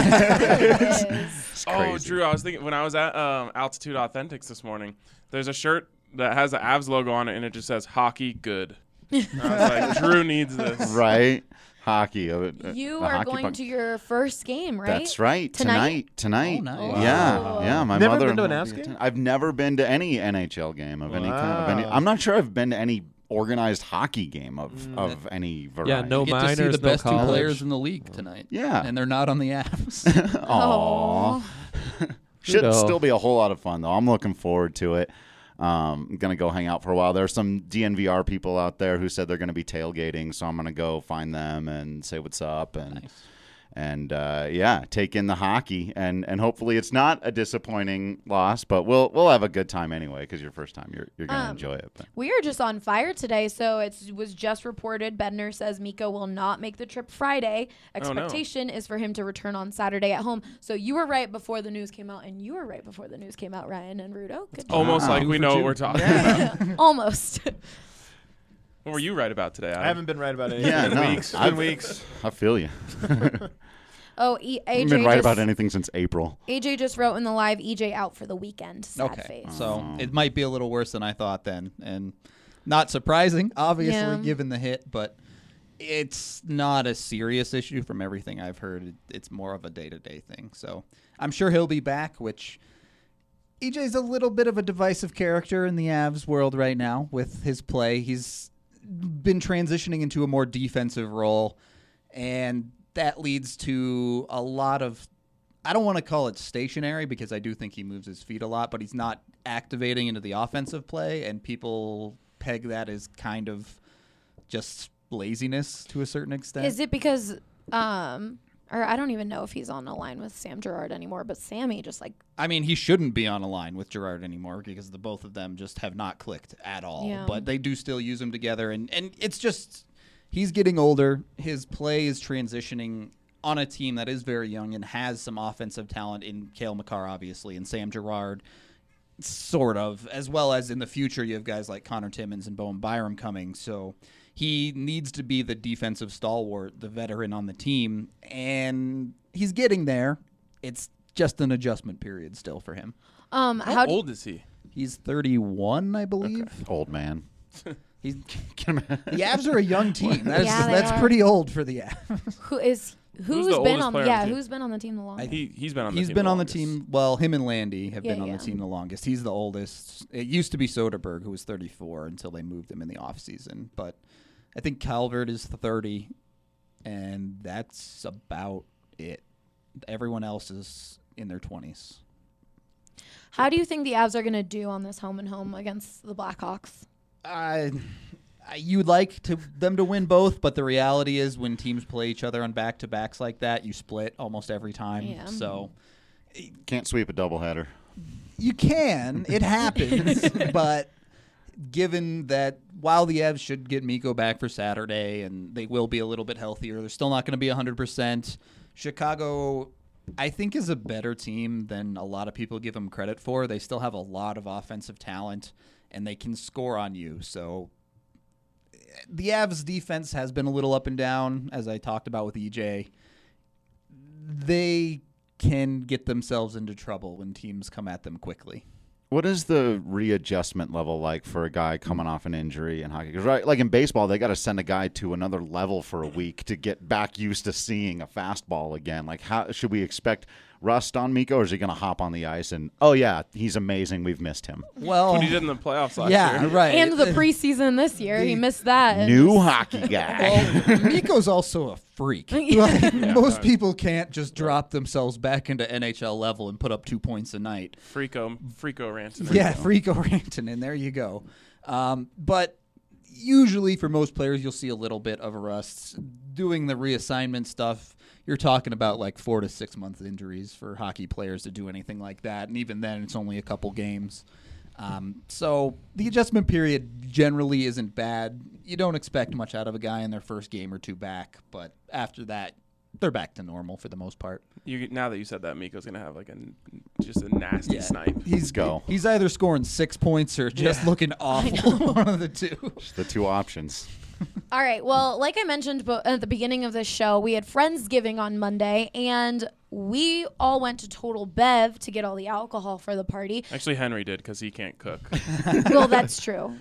It's Oh, crazy. Drew, I was thinking when I was at Altitude Authentics this morning, there's a shirt that has the Avs logo on it, and it just says "Hockey Good." And I was like, Drew needs this. Right? Hockey. You are going to your first game, right? That's right. Tonight? Tonight. Oh, nice. Yeah. Wow. Yeah. My Never mother. been to an Avs game? I've never been to any NHL game of any kind. Wow. I'm not sure I've been to any organized hockey game of any variety. Yeah, no You get to see minors, the no best 2 college. players in the league tonight. Yeah. And they're not on the Avs. Aww. Should Kudos. still be a whole lot of fun, though. I'm looking forward to it. I'm going to go hang out for a while. There's some DNVR people out there who said they're going to be tailgating, so I'm going to go find them and say what's up. And and take in the hockey, and hopefully it's not a disappointing loss, but we'll have a good time anyway, because your first time you're gonna enjoy it. But. We are just on fire today, so it was just reported. Bednar says Mikko will not make the trip Friday. Expectation is for him to return on Saturday at home. So you were right before the news came out, and you were right before the news came out, Ryan and Rudo. Good job. Almost like we know what we're talking about. Almost. What were you right about today, Adam? I haven't been right about anything in weeks. It's been weeks. I feel you. Oh, I haven't been right about anything since April. AJ just wrote in the live, EJ out for the weekend. Sad face. So it might be a little worse than I thought then. And not surprising, obviously, given the hit, but it's not a serious issue from everything I've heard. It's more of a day-to-day thing. So I'm sure he'll be back, which EJ's a little bit of a divisive character in the Avs world right now with his play. He's been transitioning into a more defensive role, and that leads to a lot of, I don't want to call it stationary because I do think he moves his feet a lot, but he's not activating into the offensive play, and people peg that as kind of just laziness to a certain extent. Is it because, or I don't even know if he's on a line with Sam Girard anymore, but Sammy just like... I mean, he shouldn't be on a line with Girard anymore because the both of them just have not clicked at all. Yeah. But they do still use him together, and it's just... He's getting older. His play is transitioning on a team that is very young and has some offensive talent in Cale Makar, obviously, and Sam Girard, sort of, as well as in the future you have guys like Connor Timmins and Bowen Byram coming. So he needs to be the defensive stalwart, the veteran on the team, and he's getting there. It's just an adjustment period still for him. How old is he? He's 31, I believe. Okay. Old man. The Avs are a young team. That's are. pretty old for the Avs. Who's the oldest player on the team? Who's been on the team the longest? He's been on the team. He's been the on the longest. team. Well, him and Landy have been on yeah. the team the longest. He's the oldest. It used to be Soderberg, who was 34 until they moved him in the offseason. But I think Calvert is 30, and that's about it. Everyone else is in their 20s. How do you think the Avs are going to do on this home and home against the Blackhawks? You'd like them to win both, but the reality is when teams play each other on back-to-backs like that, you split almost every time. Yeah. So Can't sweep a doubleheader. you can. It happens. But given that while the Avs should get Mikko back for Saturday and they will be a little bit healthier, they're still not going to be 100%. Chicago, I think, is a better team than a lot of people give them credit for. They still have a lot of offensive talent, and they can score on you. So the Avs defense has been a little up and down, as I talked about with EJ. They can get themselves into trouble when teams come at them quickly. What is the readjustment level like for a guy coming off an injury in hockey? Because right, like in baseball, they got to send a guy to another level for a week to get back used to seeing a fastball again. Like, how should we expect rust on Mikko, or is he going to hop on the ice and, oh yeah, he's amazing, we've missed him? Well, What he did in the playoffs last year. Right. And the preseason this year, he missed that. and New just- hockey guy. Well, Mikko's also a freak. Like, most people can't just drop themselves back into NHL level and put up 2 points a night. Frico Rantanen. Yeah, Frico Rantanen. There you go. But usually for most players, you'll see a little bit of a rust. Doing the reassignment stuff, you're talking about like 4 to 6 month injuries for hockey players to do anything like that. And even then, it's only a couple games. So the adjustment period generally isn't bad. You don't expect much out of a guy in their first game or two back. But after that, they're back to normal for the most part. Now that you said that, Mikko's going to have like just a nasty snipe. He's either scoring 6 points or just looking awful. One of the two. Just the two options. All right. Well, like I mentioned at the beginning of this show, we had Friendsgiving on Monday, and we all went to Total Bev to get all the alcohol for the party. Actually, Henry did because he can't cook. Well, that's true.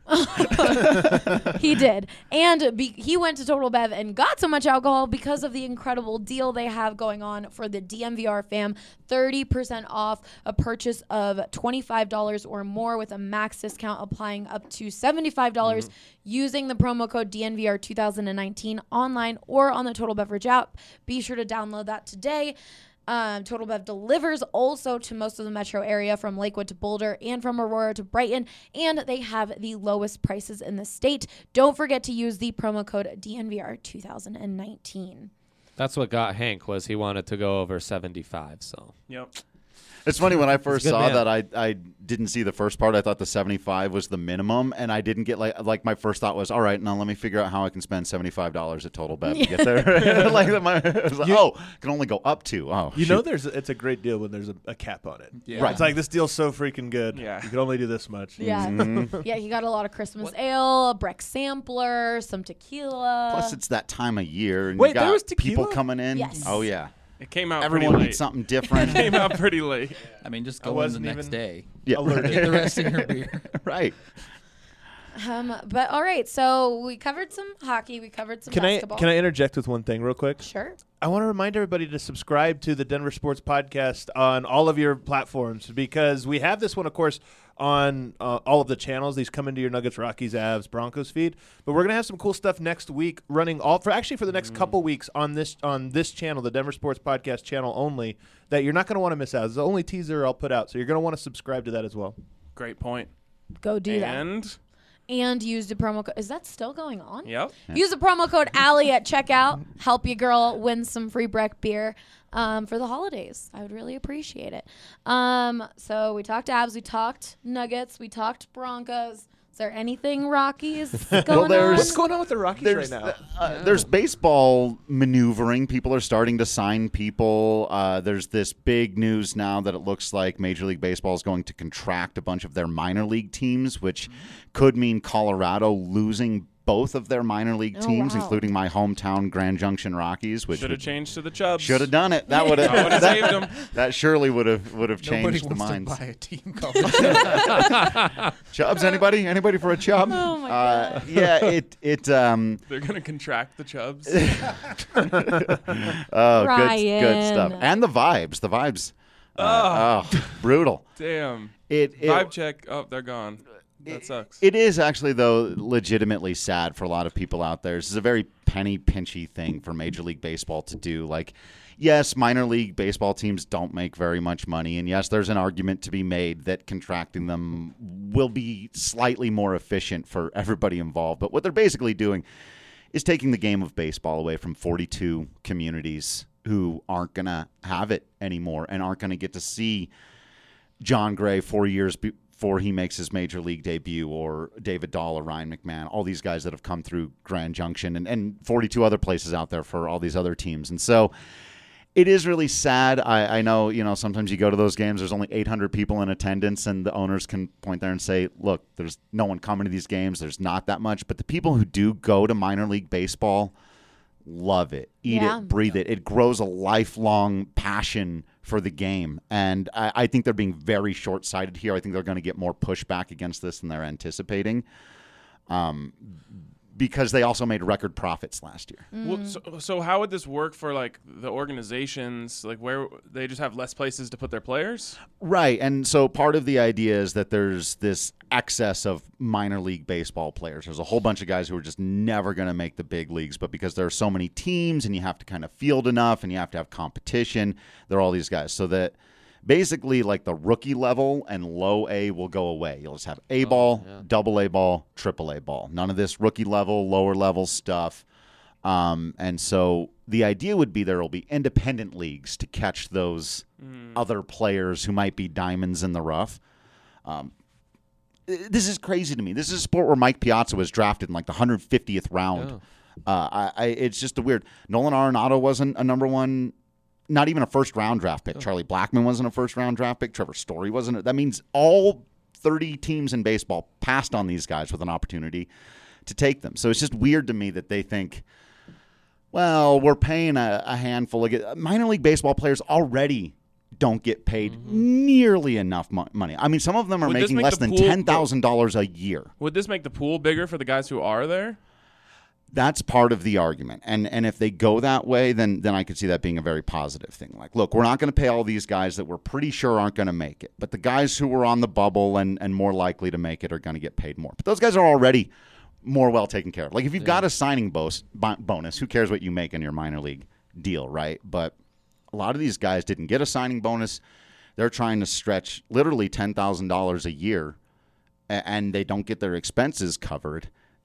He did. And he went to Total Bev and got so much alcohol because of the incredible deal they have going on for the DNVR fam. 30% off a purchase of $25 or more with a max discount applying up to $75 using the promo code DNVR 2019 online or on the Total Beverage app. Be sure to download that today. Total Bev delivers also to most of the metro area, from Lakewood to Boulder and from Aurora to Brighton, and they have the lowest prices in the state. Don't forget to use the promo code DNVR 2019. That's what got Hank, was he wanted to go over 75. So Yep. It's funny, when I first good saw man. that, I didn't see the first part. I thought the 75 was the minimum, and I didn't get like my first thought was, all right, now let me figure out how I can spend $75 at Total Bet to get there. I was like, can only go up to. Oh, You shoot. know, it's a great deal when there's a cap on it. Yeah. Right. It's like, this deal's so freaking good. Yeah. You can only do this much. Yeah. Mm-hmm. Yeah, he got a lot of Christmas ale, a Breck sampler, some tequila. Plus, it's that time of year, and Wait, you got there was people tequila? coming in. Yes. Oh yeah, It came out everyone pretty needs late. something different. Came out pretty late. I mean, just I go in the wasn't next even- day. Yeah, Get the rest of your beer. right. But all right, so we covered some hockey, we covered some basketball. Can I interject with one thing real quick? Sure. I want to remind everybody to subscribe to the Denver Sports Podcast on all of your platforms, because we have this one, of course, on all of the channels. These come into your Nuggets, Rockies, Avs, Broncos feed. But we're going to have some cool stuff next week running for the next couple weeks on this channel, the Denver Sports Podcast channel only, that you're not going to want to miss out. It's the only teaser I'll put out, so you're going to want to subscribe to that as well. Great point. Go do that. And And use the promo code. Is that still going on? yep. Use the promo code Allie at checkout. Help your girl win some free Breck beer for the holidays. I would really appreciate it. So we talked Avs, we talked Nuggets, we talked Broncos. Is there anything Rockies going on? What's going on with the Rockies right now? There's baseball maneuvering. People are starting to sign people. There's this big news now that it looks like Major League Baseball is going to contract a bunch of their minor league teams, which could mean Colorado losing both of their minor league teams, wow. including my hometown Grand Junction Rockies, which Should have changed to the Chubs. should have done it. That would That would've saved 'em. That surely would have Nobody changed the wants minds. to buy a team called the Chubbs, anybody for a Chubb? Oh, my God. Yeah, it They're gonna contract the Chubs. Oh, Ryan. good stuff. And the vibes. Brutal. Damn. It Vibe check. Oh, they're gone. That sucks. It is actually, though, legitimately sad for a lot of people out there. This is a very penny pinchy thing for Major League Baseball to do. Like, yes, minor league baseball teams don't make very much money, and yes, there's an argument to be made that contracting them will be slightly more efficient for everybody involved. But what they're basically doing is taking the game of baseball away from 42 communities who aren't going to have it anymore and aren't going to get to see John Gray 4 years before he makes his major league debut, or David Dahl or Ryan McMahon, all these guys that have come through Grand Junction and 42 other places out there for all these other teams. And so it is really sad. I know, sometimes you go to those games, there's only 800 people in attendance, and the owners can point there and say, look, there's no one coming to these games. There's not that much. But the people who do go to minor league baseball love it, eat Yeah. it, breathe it. It grows a lifelong passion for the game. And I think they're being very short-sighted here. I think they're going to get more pushback against this than they're anticipating, because they also made record profits last year. Well, so how would this work for like the organizations? Like where they just have less places to put their players? Right. And so part of the idea is that there's this excess of minor league baseball players. There's a whole bunch of guys who are just never going to make the big leagues, but because there are so many teams and you have to kind of field enough and you have to have competition, there are all these guys. So that basically like the rookie level and low A will go away. You'll just have A ball, double A ball, triple A ball. None of this rookie level, lower level stuff. And so the idea would be there will be independent leagues to catch those other players who might be diamonds in the rough. This is crazy to me. This is a sport where Mike Piazza was drafted in like the 150th round. It's just a weird. Nolan Arenado wasn't a number one, not even a first-round draft pick. Charlie Blackmon wasn't a first-round draft pick. Trevor Story wasn't. That means all 30 teams in baseball passed on these guys with an opportunity to take them. So it's just weird to me that they think, well, we're paying a handful of minor league baseball players already don't get paid nearly enough money. I mean, some of them are Would this making make less the than pool- $10,000 a year. Would this make the pool bigger for the guys who are there? That's part of the argument. And if they go that way, then I could see that being a very positive thing. Like, look, we're not going to pay all these guys that we're pretty sure aren't going to make it. But the guys who were on the bubble and more likely to make it are going to get paid more. But those guys are already more well taken care of. Like, if you've got a signing bonus, who cares what you make in your minor league deal, right? But a lot of these guys didn't get a signing bonus. They're trying to stretch literally $10,000 a year, and they don't get their expenses covered.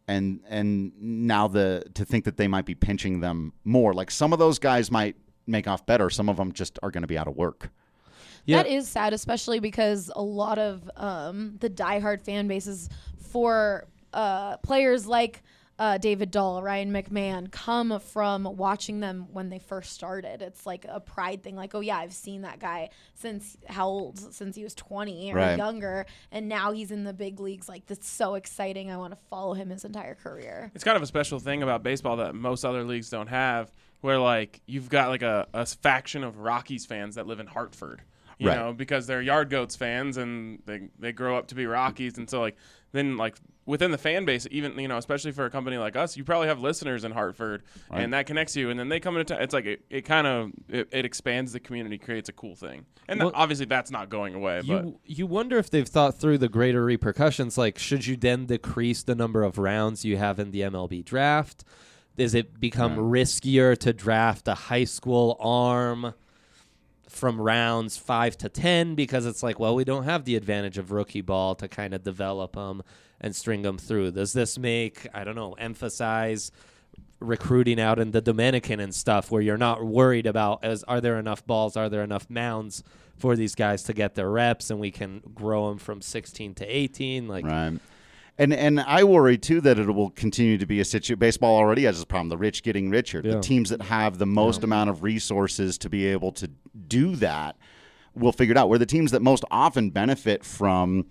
and now to think that they might be pinching them more. Like some of those guys might make off better. Some of them just are going to be out of work. Yeah. That is sad, especially because a lot of the diehard fan bases for players like David Dahl, Ryan McMahon, come from watching them when they first started. It's like a pride thing. Like, oh, yeah, I've seen that guy since how old? Since he was 20 or younger, and now he's in the big leagues. Like, that's so exciting. I want to follow him his entire career. It's kind of a special thing about baseball that most other leagues don't have, where, like, you've got, like, a faction of Rockies fans that live in Hartford. You know, because they're Yard Goats fans and they grow up to be Rockies. And so, like, then, like, within the fan base, even, you know, especially for a company like us, you probably have listeners in Hartford, and that connects you. And then they come into it's like it kind of expands the community, creates a cool thing. And obviously that's not going away. You wonder if they've thought through the greater repercussions. Like, should you then decrease the number of rounds you have in the MLB draft? Does it become riskier to draft a high school arm from rounds 5 to 10 because it's like, well, we don't have the advantage of rookie ball to kind of develop them and string them through? Does this make, I don't know, emphasize recruiting out in the Dominican and stuff where you're not worried about are there enough balls, are there enough mounds for these guys to get their reps and we can grow them from 16 to 18? Like, right. And I worry, too, that it will continue to be a situation. Baseball already has this problem, the rich getting richer. Yeah. The teams that have the most amount of resources to be able to do that will figure it out. Where the teams that most often benefit from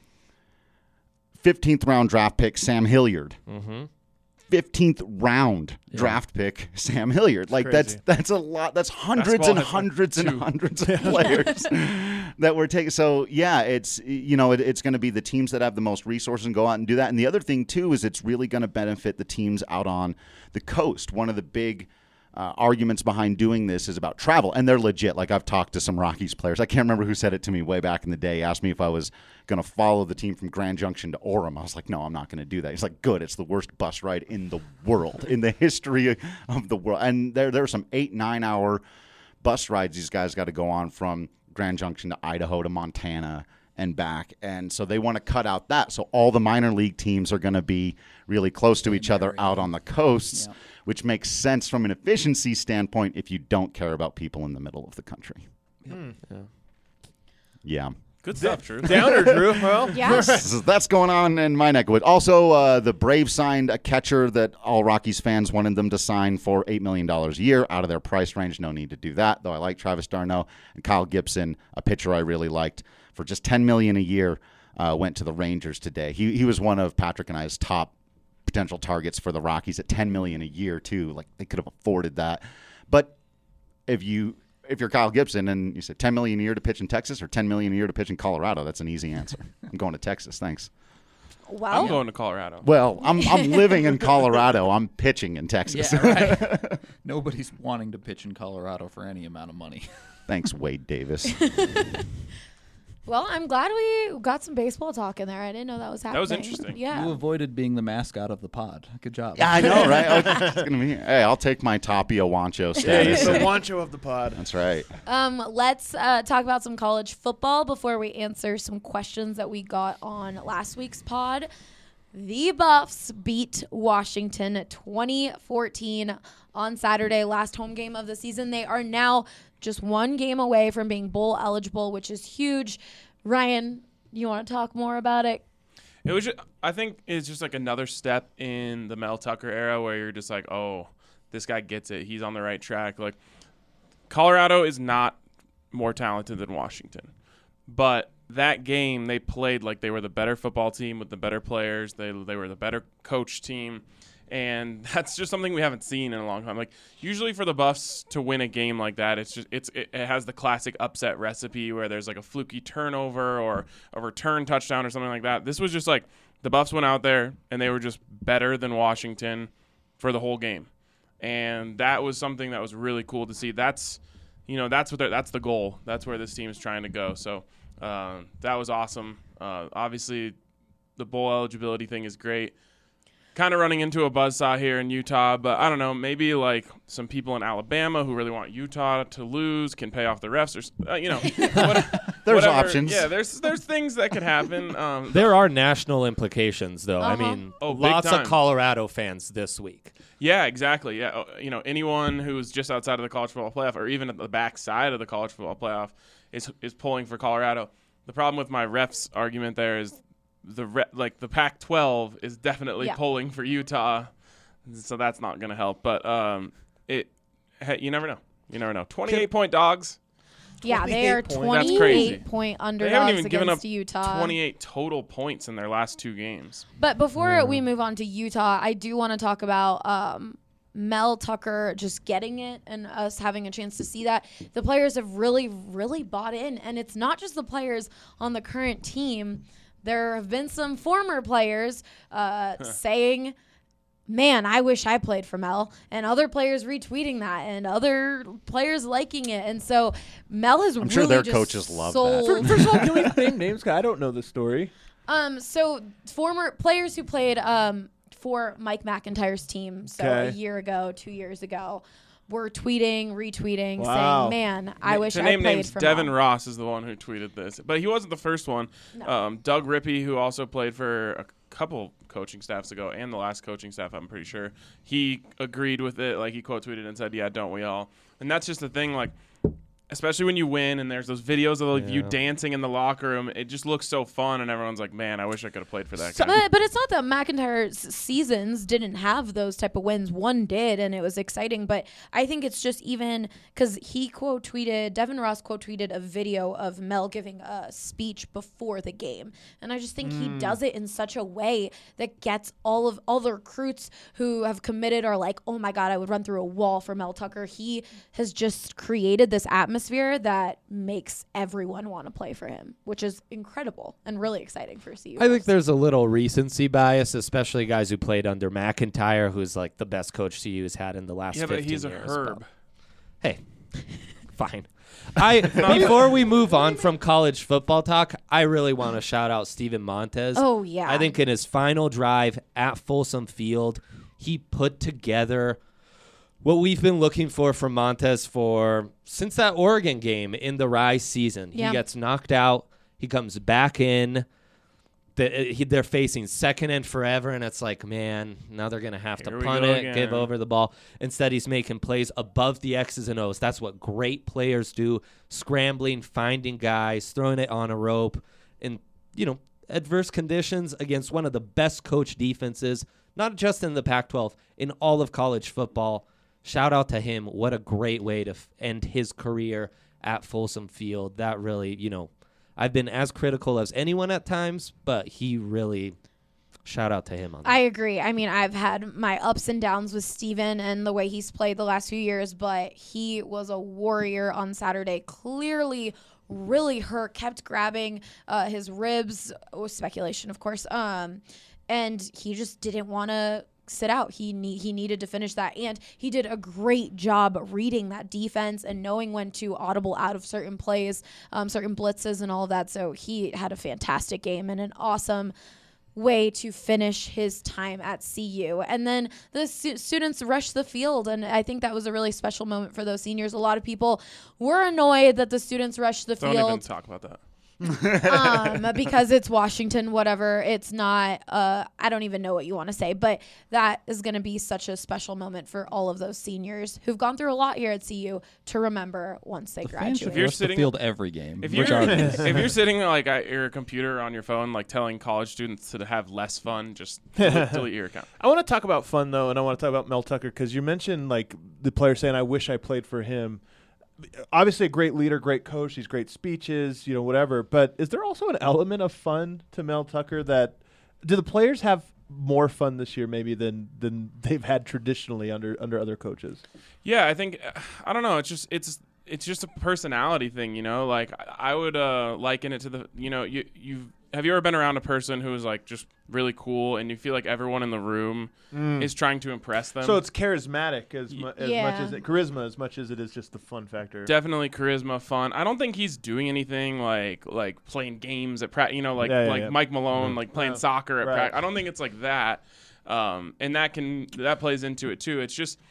15th round draft pick Sam Hilliard. 15th round draft pick Sam Hilliard. Like that's a lot. That's hundreds and hundreds and hundreds of players that we're taking. So yeah, it's it's going to be the teams that have the most resources and go out and do that. And the other thing too is it's really going to benefit the teams out on the coast. One of the big arguments behind doing this is about travel, and they're legit. Like I've talked to some Rockies players. I can't remember who said it to me way back in the day. He asked me if I was going to follow the team from Grand Junction to Orem. I was like, no, I'm not going to do that. He's like, good. It's the worst bus ride in the world, in the history of the world. And there are some 8-9 hour bus rides these guys got to go on from Grand Junction to Idaho to Montana and back. And so they want to cut out that. So all the minor league teams are going to be really close to each other out on the coasts, which makes sense from an efficiency standpoint if you don't care about people in the middle of the country. Yeah. Good stuff, Drew. Downer, Drew. Well, that's going on in my neck of woods. Also, the Braves signed a catcher that all Rockies fans wanted them to sign for $8 million a year out of their price range. No need to do that, though I like Travis d'Arnaud. And Kyle Gibson, a pitcher I really liked, for just $10 million a year, went to the Rangers today. He was one of Patrick and I's top potential targets for the Rockies at $10 million a year, too. Like, they could have afforded that. But if you're Kyle Gibson and you said $10 million a year to pitch in Texas or $10 million a year to pitch in Colorado, that's an easy answer. I'm going to Texas, thanks. Well, I'm going to Colorado. Well, I'm living in Colorado. I'm pitching in Texas. Yeah, right. Nobody's wanting to pitch in Colorado for any amount of money. Thanks, Wade Davis. Well, I'm glad we got some baseball talk in there. I didn't know that was happening. That was interesting. Yeah. You avoided being the mascot of the pod. Good job. Yeah, I know, right? It's gonna be. Hey, I'll take my Tapia Wancho status. He's the Wancho of the pod. That's right. Let's talk about some college football before we answer some questions that we got on last week's pod. The Buffs beat Washington 2014 on Saturday, last home game of the season. They are now just one game away from being bowl eligible, which is huge. Ryan, you want to talk more about it? It was I think it's just like another step in the Mel Tucker era where you're just like, oh, this guy gets it. He's on the right track. Like, Colorado is not more talented than Washington. But that game, they played like they were the better football team with the better players. They were the better coach team. And that's just something we haven't seen in a long time. Like, usually for the Buffs to win a game like that, it has the classic upset recipe where there's like a fluky turnover or a return touchdown or something like that. This was just like the Buffs went out there and they were just better than Washington for the whole game. And that was something that was really cool to see. That's the goal. That's where this team is trying to go. So that was awesome. Obviously, the bowl eligibility thing is great. Kind of running into a buzzsaw here in Utah, but I don't know, maybe like some people in Alabama who really want Utah to lose can pay off the refs or There's whatever. options. Yeah, there's things that could happen. There are national implications, though. I mean, Oh, big lots time. of Colorado fans this week. Yeah, exactly. Yeah, anyone who's just outside of the college football playoff, or even at the back side of the college football playoff, is pulling for Colorado. The problem with my refs argument there is the Pac-12 is definitely pulling for Utah, so that's not going to help. But you never know. You never know. 28-point dogs. Yeah, they are 28-point underdogs they haven't even given up Utah. 28 total points in their last 2 games. But before we move on to Utah, I do want to talk about Mel Tucker just getting it and us having a chance to see that. The players have really, really bought in. And it's not just the players on the current team. There have been some former players saying, man, I wish I played for Mel, and other players retweeting that, and other players liking it, and so Mel has I'm really sure their just coaches love sold. that. First of all, can we name names? 'Cause I don't know the story. So former players who played for Mike McIntyre's team, so a year ago, 2 years ago, were tweeting, retweeting, saying, man, I wish I played names, for Devin Mel. Ross is the one who tweeted this, but he wasn't the first one. No. Doug Rippey, who also played for a couple coaching staffs ago, and the last coaching staff, I'm pretty sure, he agreed with it. Like, he quote tweeted and said, yeah, don't we all? And that's just the thing, like, especially when you win and there's those videos of you dancing in the locker room, it just looks so fun, and everyone's like, man, I wish I could have played for that guy. But it's not that McIntyre's seasons didn't have those type of wins. One did, and it was exciting. But I think it's just even because Devin Ross quote tweeted a video of Mel giving a speech before the game. And I just think he does it in such a way that gets all the recruits who have committed are like, oh my God, I would run through a wall for Mel Tucker. He has just created this atmosphere that makes everyone want to play for him, which is incredible and really exciting for CU. I think there's a little recency bias, especially guys who played under McIntyre, who's like the best coach CU's had in the last 15 years. Yeah, but he's a herb. Hey, fine. Before we move on from college football talk, I really want to shout out Steven Montez. Oh, yeah. I think in his final drive at Folsom Field, he put together what we've been looking for from Montez since that Oregon game in the Rise season. Yeah. He gets knocked out. He comes back in. They're facing second and forever, and it's like, man, now they're going to have to punt it, give over the ball. Instead, he's making plays above the X's and O's. That's what great players do, scrambling, finding guys, throwing it on a rope in, adverse conditions against one of the best coach defenses, not just in the Pac-12, in all of college football. Shout out to him. What a great way to end his career at Folsom Field. That really, I've been as critical as anyone at times, but he really, shout out to him on that. I agree. I mean, I've had my ups and downs with Steven and the way he's played the last few years, but he was a warrior on Saturday. Clearly really hurt, kept grabbing his ribs. Speculation, of course. And he just didn't want to sit out. He needed to finish that, and he did a great job reading that defense and knowing when to audible out of certain plays, certain blitzes and all of that. So he had a fantastic game and an awesome way to finish his time at CU. And then the students rushed the field, and I think that was a really special moment for those seniors. A lot of people were annoyed that the students rushed the field. Don't even talk about that. Because it's Washington, whatever. It's not, I don't even know what you want to say, but that is going to be such a special moment for all of those seniors who've gone through a lot here at CU to remember once they graduate. If you're sitting the field every game, if you're sitting like at your computer on your phone, like telling college students to have less fun, just delete your account. I want to talk about fun though, and I want to talk about Mel Tucker because you mentioned like the player saying, "I wish I played for him." Obviously a great leader, great coach, these great speeches, whatever. But is there also an element of fun to Mel Tucker that do the players have more fun this year maybe than they've had traditionally under other coaches? Yeah, I think I don't know. It's just a personality thing, Like I would liken it to the have you ever been around a person who is like just really cool and you feel like everyone in the room is trying to impress them? So it's charismatic as much as charisma as much as it is just the fun factor. Definitely charisma, fun. I don't think he's doing anything like playing games at practice, Mike Malone, like playing soccer at practice. I don't think it's like that. And that plays into it too. It's just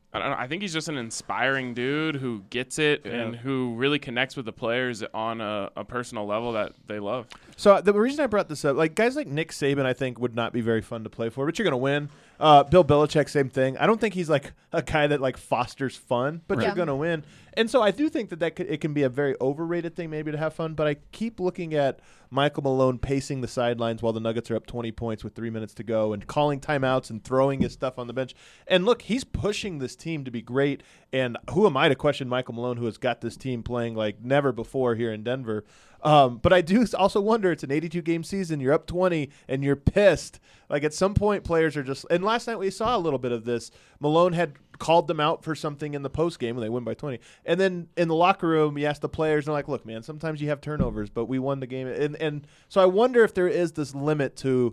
I don't know. I think he's just an inspiring dude who gets it and who really connects with the players on a personal level that they love. So the reason I brought this up, like guys like Nick Saban, I think would not be very fun to play for, but you're going to win. Bill Belichick, same thing. I don't think he's like a guy that like fosters fun, but you're going to win. And so I do think that it can be a very overrated thing maybe to have fun, but I keep looking at Michael Malone pacing the sidelines while the Nuggets are up 20 points with 3 minutes to go and calling timeouts and throwing his stuff on the bench. And look, he's pushing this team to be great. And who am I to question Michael Malone, who has got this team playing like never before here in Denver? But I do also wonder, it's an 82-game season. You're up 20, and you're pissed. Like at some point, players are just – and last night we saw a little bit of this. Malone had called them out for something in the postgame when they win by 20. And then in the locker room, he asked the players, and they're like, look, man, sometimes you have turnovers, but we won the game. And so I wonder if there is this limit to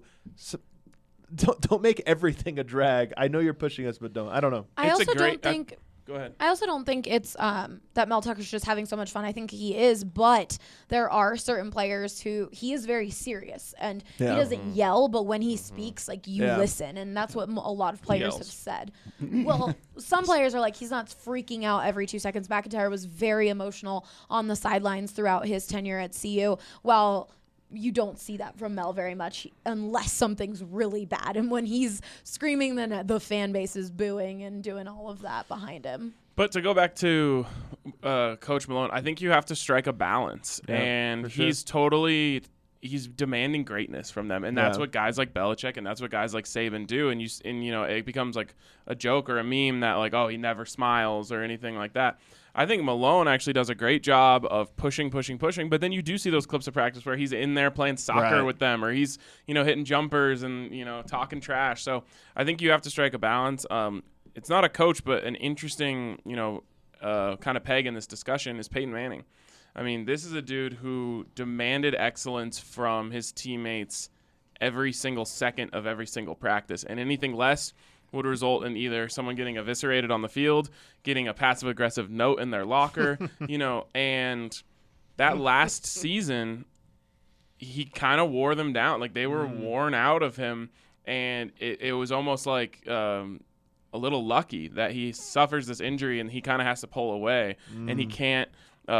don't make everything a drag. I know you're pushing us, but don't. I don't know. I also don't think – Go ahead. I also don't think it's that Mel Tucker's just having so much fun. I think he is, but there are certain players who he is very serious and he doesn't yell, but when he speaks, like you listen, and that's what a lot of players have said. Well, some players are like he's not freaking out every 2 seconds. McIntyre was very emotional on the sidelines throughout his tenure at CU. Well, you don't see that from Mel very much unless something's really bad. And when he's screaming, then the fan base is booing and doing all of that behind him. But to go back to Coach Malone, I think you have to strike a balance. And he's demanding greatness from them. And that's what guys like Belichick and that's what guys like Saban do. And it becomes like a joke or a meme that like, oh, he never smiles or anything like that. I think Malone actually does a great job of pushing, but then you do see those clips of practice where he's in there playing soccer with them or he's, hitting jumpers and, talking trash. So I think you have to strike a balance. It's not a coach, but an interesting, kind of peg in this discussion is Peyton Manning. I mean, this is a dude who demanded excellence from his teammates every single second of every single practice, and anything less would result in either someone getting eviscerated on the field, getting a passive-aggressive note in their locker, and that last season, he kind of wore them down. Like, they were worn out of him, and it was almost like a little lucky that he suffers this injury and he kind of has to pull away, and he can't,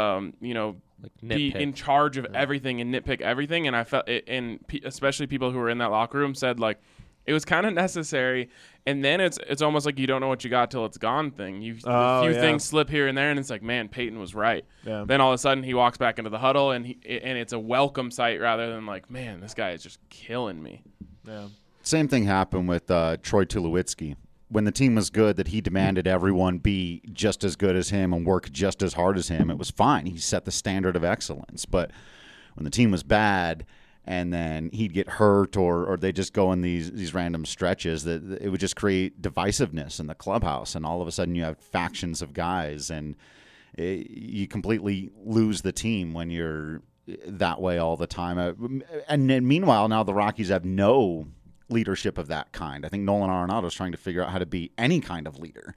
be in charge of everything and nitpick everything. And I felt it, and especially people who were in that locker room said, like, it was kind of necessary, and then it's almost like you don't know what you got till it's gone thing. A few things slip here and there, and it's like, man, Peyton was right. Yeah. Then all of a sudden he walks back into the huddle, and it's a welcome sight rather than like, man, this guy is just killing me. Yeah. Same thing happened with Troy Tulowitzki. When the team was good, that he demanded everyone be just as good as him and work just as hard as him. It was fine. He set the standard of excellence. But when the team was bad, and then he'd get hurt or they just go in these random stretches, that it would just create divisiveness in the clubhouse. And all of a sudden you have factions of guys, and you completely lose the team when you're that way all the time. And then meanwhile, now the Rockies have no leadership of that kind. I think Nolan Arenado is trying to figure out how to be any kind of leader.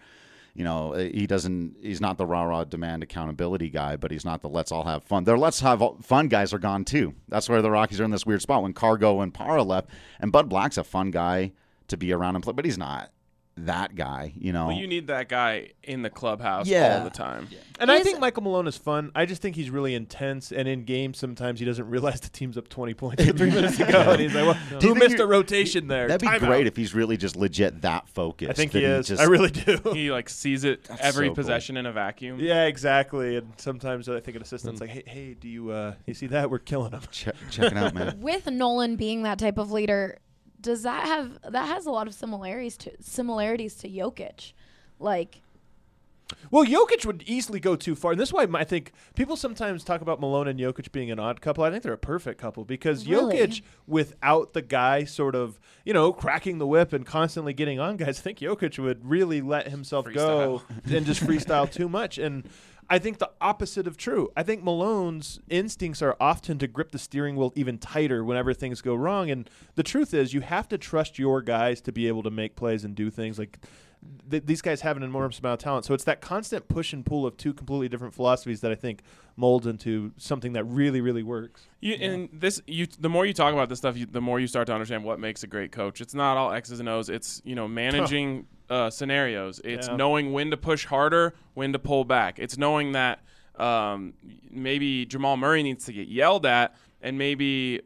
He's not the rah-rah demand accountability guy, but he's not the let's all have fun. Their let's have fun guys are gone too. That's where the Rockies are in this weird spot when Cargo and Parra left, and Bud Black's a fun guy to be around and play, but he's not that guy, Well, you need that guy in the clubhouse all the time. Yeah. And I think Michael Malone is fun. I just think he's really intense, and in games sometimes he doesn't realize the team's up 20 points with 3 minutes to go, and he's like, well, who missed a rotation there? That'd be great if he's really just legit that focused. I think he is. I really do. He sees it every possession in a vacuum. Yeah, exactly. And sometimes I think an assistant's like, hey, do you see that? We're killing him. Check it out, man. With Nolan being that type of leader, does that has a lot of similarities to Jokic, like? Well, Jokic would easily go too far, and this is why I think people sometimes talk about Malone and Jokic being an odd couple. I think they're a perfect couple because Jokic, without the guy sort of cracking the whip and constantly getting on guys, I think Jokic would really let himself go and just freestyle too much. And I think the opposite of true. I think Malone's instincts are often to grip the steering wheel even tighter whenever things go wrong. And the truth is you have to trust your guys to be able to make plays and do things. Like these guys have an enormous amount of talent. So it's that constant push and pull of two completely different philosophies that I think molds into something that really, really works. And the more you talk about this stuff, the more you start to understand what makes a great coach. It's not all X's and O's. It's, managing scenarios. It's knowing when to push harder, when to pull back. It's knowing that maybe Jamal Murray needs to get yelled at, and maybe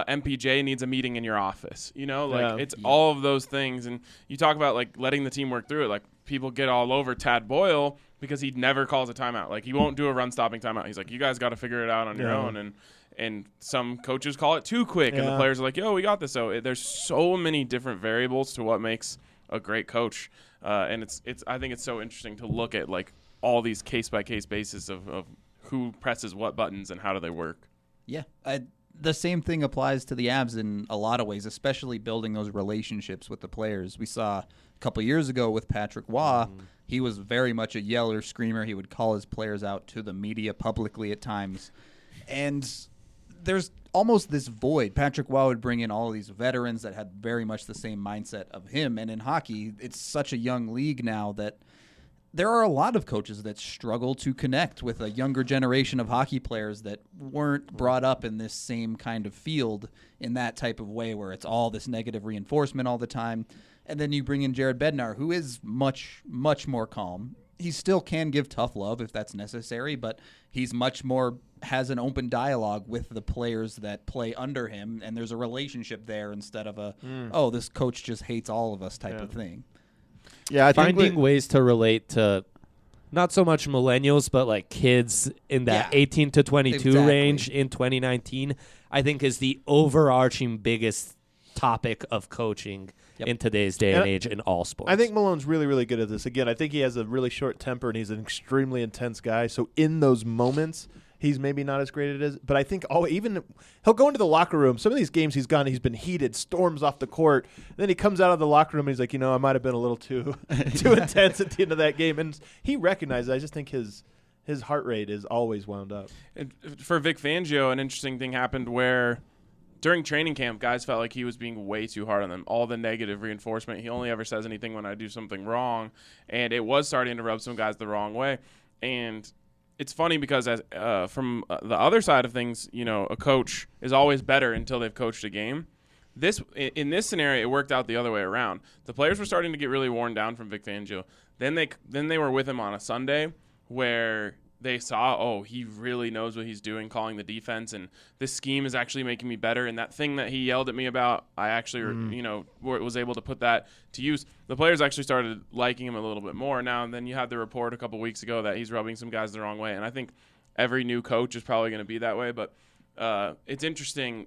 MPJ needs a meeting in your office. It's all of those things. And you talk about like letting the team work through it. Like people get all over Tad Boyle because he never calls a timeout. Like he won't do a run-stopping timeout. He's like, you guys got to figure it out on your own. And some coaches call it too quick, and the players are like, yo, we got this. So there's so many different variables to what makes a great coach. And I think it's so interesting to look at like all these case-by-case basis of who presses what buttons and how do they work. Yeah, the same thing applies to the Avs in a lot of ways, especially building those relationships with the players. We saw a couple years ago with Patrick Waugh. He was very much a yeller, screamer. He would call his players out to the media publicly at times. And there's almost this void. Patrick Waugh would bring in all of these veterans that had very much the same mindset of him. And in hockey, it's such a young league now that there are a lot of coaches that struggle to connect with a younger generation of hockey players that weren't brought up in this same kind of field in that type of way where it's all this negative reinforcement all the time. And then you bring in Jared Bednar, who is much, much more calm. He still can give tough love if that's necessary, but he's much more has an open dialogue with the players that play under him, and there's a relationship there instead of this coach just hates all of us type of thing. Yeah, I think finding ways to relate to not so much millennials, but like kids in that 18 to 22 range in 2019, I think is the overarching biggest topic of coaching in today's day and age in all sports. I think Malone's really, really good at this. Again, I think he has a really short temper, and he's an extremely intense guy. So in those moments, he's maybe not as great at it. But I think even he'll go into the locker room. Some of these games he's been heated, storms off the court. And then he comes out of the locker room and he's like, I might have been a little too intense at the end of that game. And he recognizes it. I just think his heart rate is always wound up. And for Vic Fangio, an interesting thing happened where during training camp, guys felt like he was being way too hard on them. All the negative reinforcement. He only ever says anything when I do something wrong. And it was starting to rub some guys the wrong way. And it's funny because from the other side of things, a coach is always better until they've coached a game. In this scenario, it worked out the other way around. The players were starting to get really worn down from Vic Fangio. Then they were with him on a Sunday where they saw, he really knows what he's doing, calling the defense, and this scheme is actually making me better. And that thing that he yelled at me about, I actually, was able to put that to use. The players actually started liking him a little bit more now. And then you had the report a couple weeks ago that he's rubbing some guys the wrong way. And I think every new coach is probably going to be that way. But it's interesting.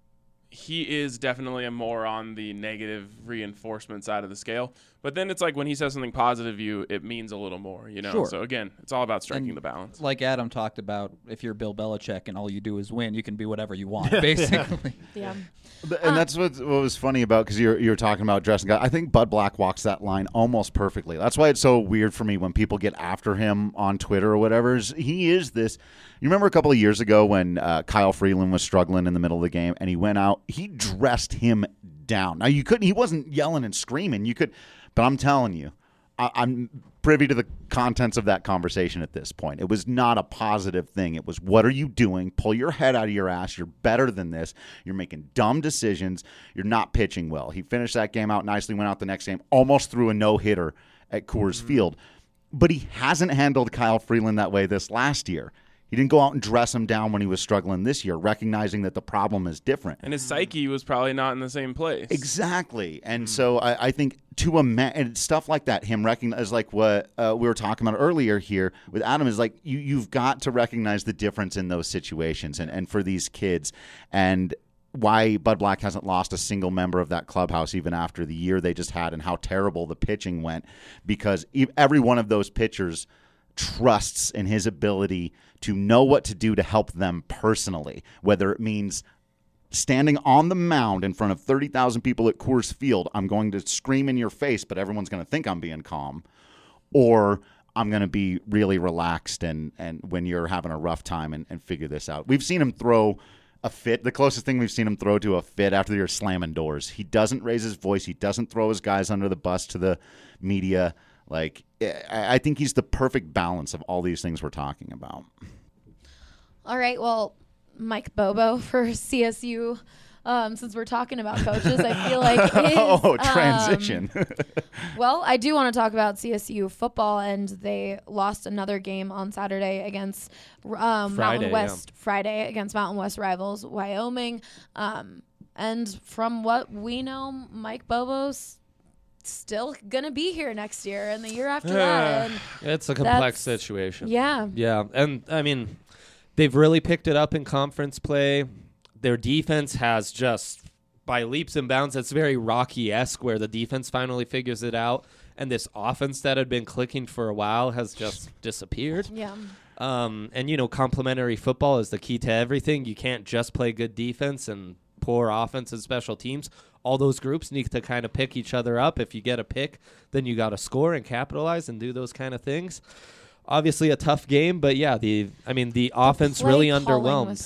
He is definitely more on the negative reinforcement side of the scale. But then it's like when he says something positive, it means a little more, Sure. So, again, it's all about striking the balance. Like Adam talked about, if you're Bill Belichick and all you do is win, you can be whatever you want, basically. Yeah. And that's what was funny about, because you were talking about dressing guys. I think Bud Black walks that line almost perfectly. That's why it's so weird for me when people get after him on Twitter or whatever. He is this. You remember a couple of years ago when Kyle Freeland was struggling in the middle of the game and he went out, he dressed him down. Now he wasn't yelling and screaming. But I'm telling you, I'm privy to the contents of that conversation at this point. It was not a positive thing. It was, what are you doing? Pull your head out of your ass. You're better than this. You're making dumb decisions. You're not pitching well. He finished that game out nicely, went out the next game, almost threw a no-hitter at Coors Field. But he hasn't handled Kyle Freeland that way this last year. He didn't go out and dress him down when he was struggling this year, recognizing that the problem is different. And his psyche was probably not in the same place. Exactly. And so I think and stuff like that, him recognize, like what we were talking about earlier here with Adam, is like you've got to recognize the difference in those situations and for these kids. And why Bud Black hasn't lost a single member of that clubhouse even after the year they just had and how terrible the pitching went, because every one of those pitchers trusts in his ability to know what to do to help them personally, whether it means standing on the mound in front of 30,000 people at Coors Field, I'm going to scream in your face, but everyone's going to think I'm being calm, or I'm going to be really relaxed and when you're having a rough time and figure this out. We've seen him throw a fit. The closest thing we've seen him throw to a fit after you're slamming doors. He doesn't raise his voice. He doesn't throw his guys under the bus to the media. Like, I think he's the perfect balance of all these things we're talking about. All right. Well, Mike Bobo for CSU since we're talking about coaches, I feel like is, transition. well, I do want to talk about CSU football, and they lost another game on Saturday against Mountain West. Friday against Mountain West rivals Wyoming. And from what we know, Mike Bobo's still going to be here next year and the year after that. And it's a complex situation. Yeah. Yeah. And, I mean, they've really picked it up in conference play. Their defense has just, by leaps and bounds, it's very Rocky-esque where the defense finally figures it out. And this offense that had been clicking for a while has just disappeared. Yeah. And, complementary football is the key to everything. You can't just play good defense and poor offense and special teams. All those groups need to kind of pick each other up. If you get a pick, then you got to score and capitalize and do those kind of things. Obviously a tough game, but yeah, the offense really underwhelmed. Was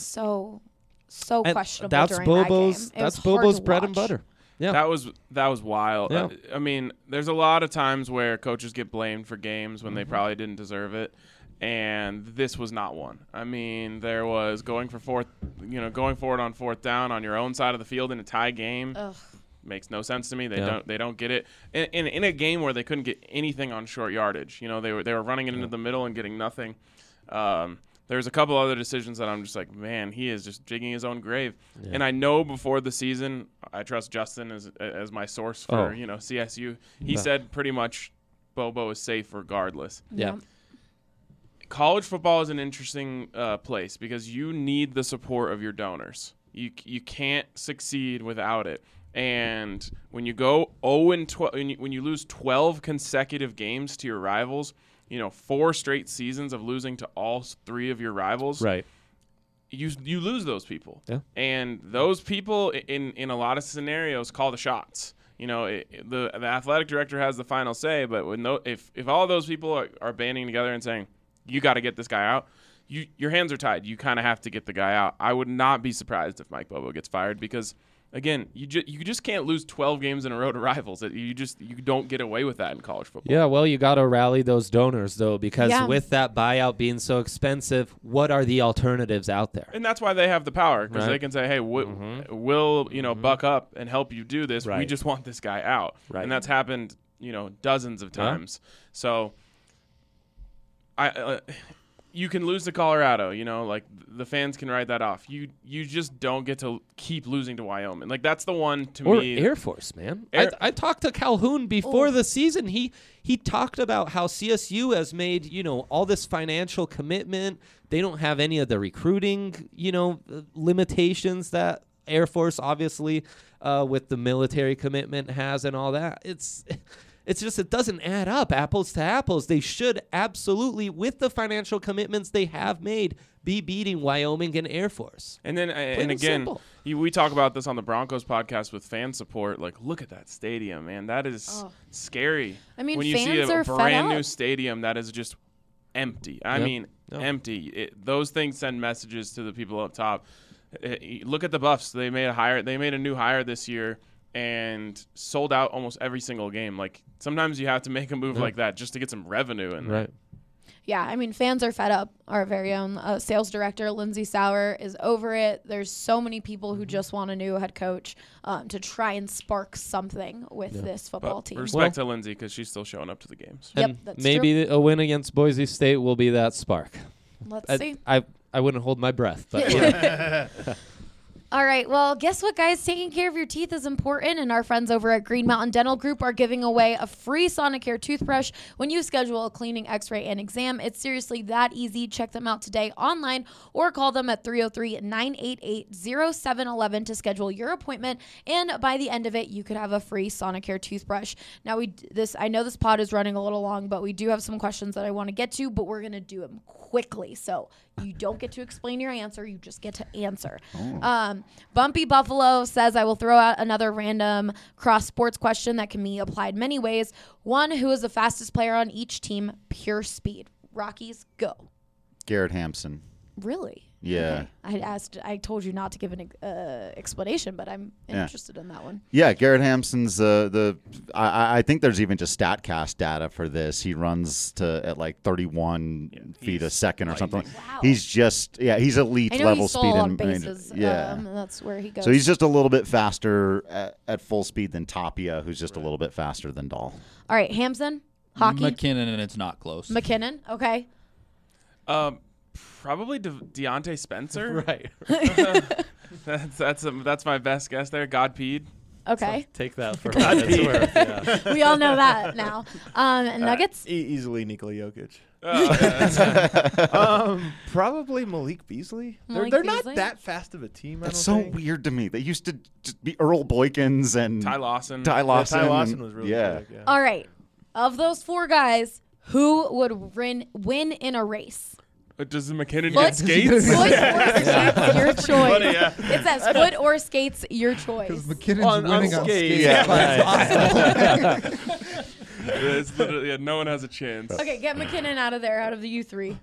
so questionable. That's Bobo's. That's Bobo's bread and butter. Yeah, that was wild. Yeah. I mean, there's a lot of times where coaches get blamed for games when they probably didn't deserve it, and this was not one. I mean, there was going forward on fourth down on your own side of the field in a tie game. Ugh. Makes no sense to me. They don't get it in a game where they couldn't get anything on short yardage. They were running it into the middle and getting nothing. There's a couple other decisions that I'm just like, man, he is just digging his own grave. Yeah. And I know before the season, I trust Justin as my source for CSU. He said pretty much Bobo is safe regardless. Yeah. College football is an interesting place because you need the support of your donors. You can't succeed without it. And when you go 0-12, when you lose 12 consecutive games to your rivals, 4 straight seasons of losing to all 3 of your rivals, right? You lose those people, yeah. And those people in a lot of scenarios call the shots. The athletic director has the final say, but if all those people are banding together and saying you got to get this guy out, your hands are tied. You kind of have to get the guy out. I would not be surprised if Mike Bobo gets fired because, again, you just can't lose 12 games in a row to rivals. You don't get away with that in college football. Yeah, well, you got to rally those donors, though, because with that buyout being so expensive, what are the alternatives out there? And that's why they have the power, because they can say, hey, we'll buck up and help you do this. Right. We just want this guy out. Right. And that's happened, dozens of times. Yeah. So you can lose to Colorado, like the fans can write that off. You just don't get to keep losing to Wyoming. Like that's the one to me. Or Air Force, man. I talked to Calhoun before the season. He talked about how CSU has made, all this financial commitment. They don't have any of the recruiting, limitations that Air Force obviously with the military commitment has and all that. It's just it doesn't add up, apples to apples. They should absolutely, with the financial commitments they have made, be beating Wyoming and Air Force. And then, and again, we talk about this on the Broncos podcast with fan support. Like, look at that stadium, man. That is scary. I mean, when you see a brand new stadium that is just empty. I mean, empty. Those things send messages to the people up top. Look at the Buffs. They made a new hire this year and sold out almost every single game. Like sometimes you have to make a move like that just to get some revenue in there. Right. Yeah, I mean, fans are fed up. Our very own sales director, Lindsay Sauer, is over it. There's so many people who just want a new head coach to try and spark something with this football team. Respect to Lindsay because she's still showing up to the games. Yep, that's maybe true. A win against Boise State will be that spark. Let's see. I wouldn't hold my breath, but All right, well, guess what, guys? Taking care of your teeth is important, and our friends over at Green Mountain Dental Group are giving away a free Sonicare toothbrush when you schedule a cleaning, x-ray, and exam. It's seriously that easy. Check them out today online or call them at 303-988-0711 to schedule your appointment, and by the end of it, you could have a free Sonicare toothbrush. Now, I know this pod is running a little long, but we do have some questions that I want to get to, but we're going to do them quickly, so you don't get to explain your answer. You just get to answer. Bumpy Buffalo says, I will throw out another random cross-sports question that can be applied many ways. One, who is the fastest player on each team? Pure speed. Rockies, go. Garrett Hampson. Really? Yeah. Okay. I told you not to give an explanation, but I'm interested in that one. Yeah, Garrett Hampson's I think there's even just StatCast data for this. He runs at like 31 feet a second or something. Wow. He's just he's elite I know level he's speed on bases. Yeah. That's where he goes. So he's just a little bit faster at full speed than Tapia, who's just a little bit faster than Dahl. All right, Hampson, hockey. McKinnon, and it's not close. McKinnon, okay. Probably Deontay Spencer. Right. That's my best guess there. Godpeed. Okay. Take that for what it's worth. Yeah. We all know that now. Nuggets? Easily Nikola Jokic. Probably Malik Beasley. They're not that fast of a team. That's so weird to me. They used to just be Earl Boykins and Ty Lawson. Ty Lawson was really good. Yeah. All right. Of those 4 guys, who would win in a race? Does McKinnon get skates? Foot or skates, your choice. Funny, yeah. It says foot or skates, your choice. Because McKinnon's winning on skates. Yeah. It's literally, no one has a chance. Okay, get McKinnon out of there, out of the U3.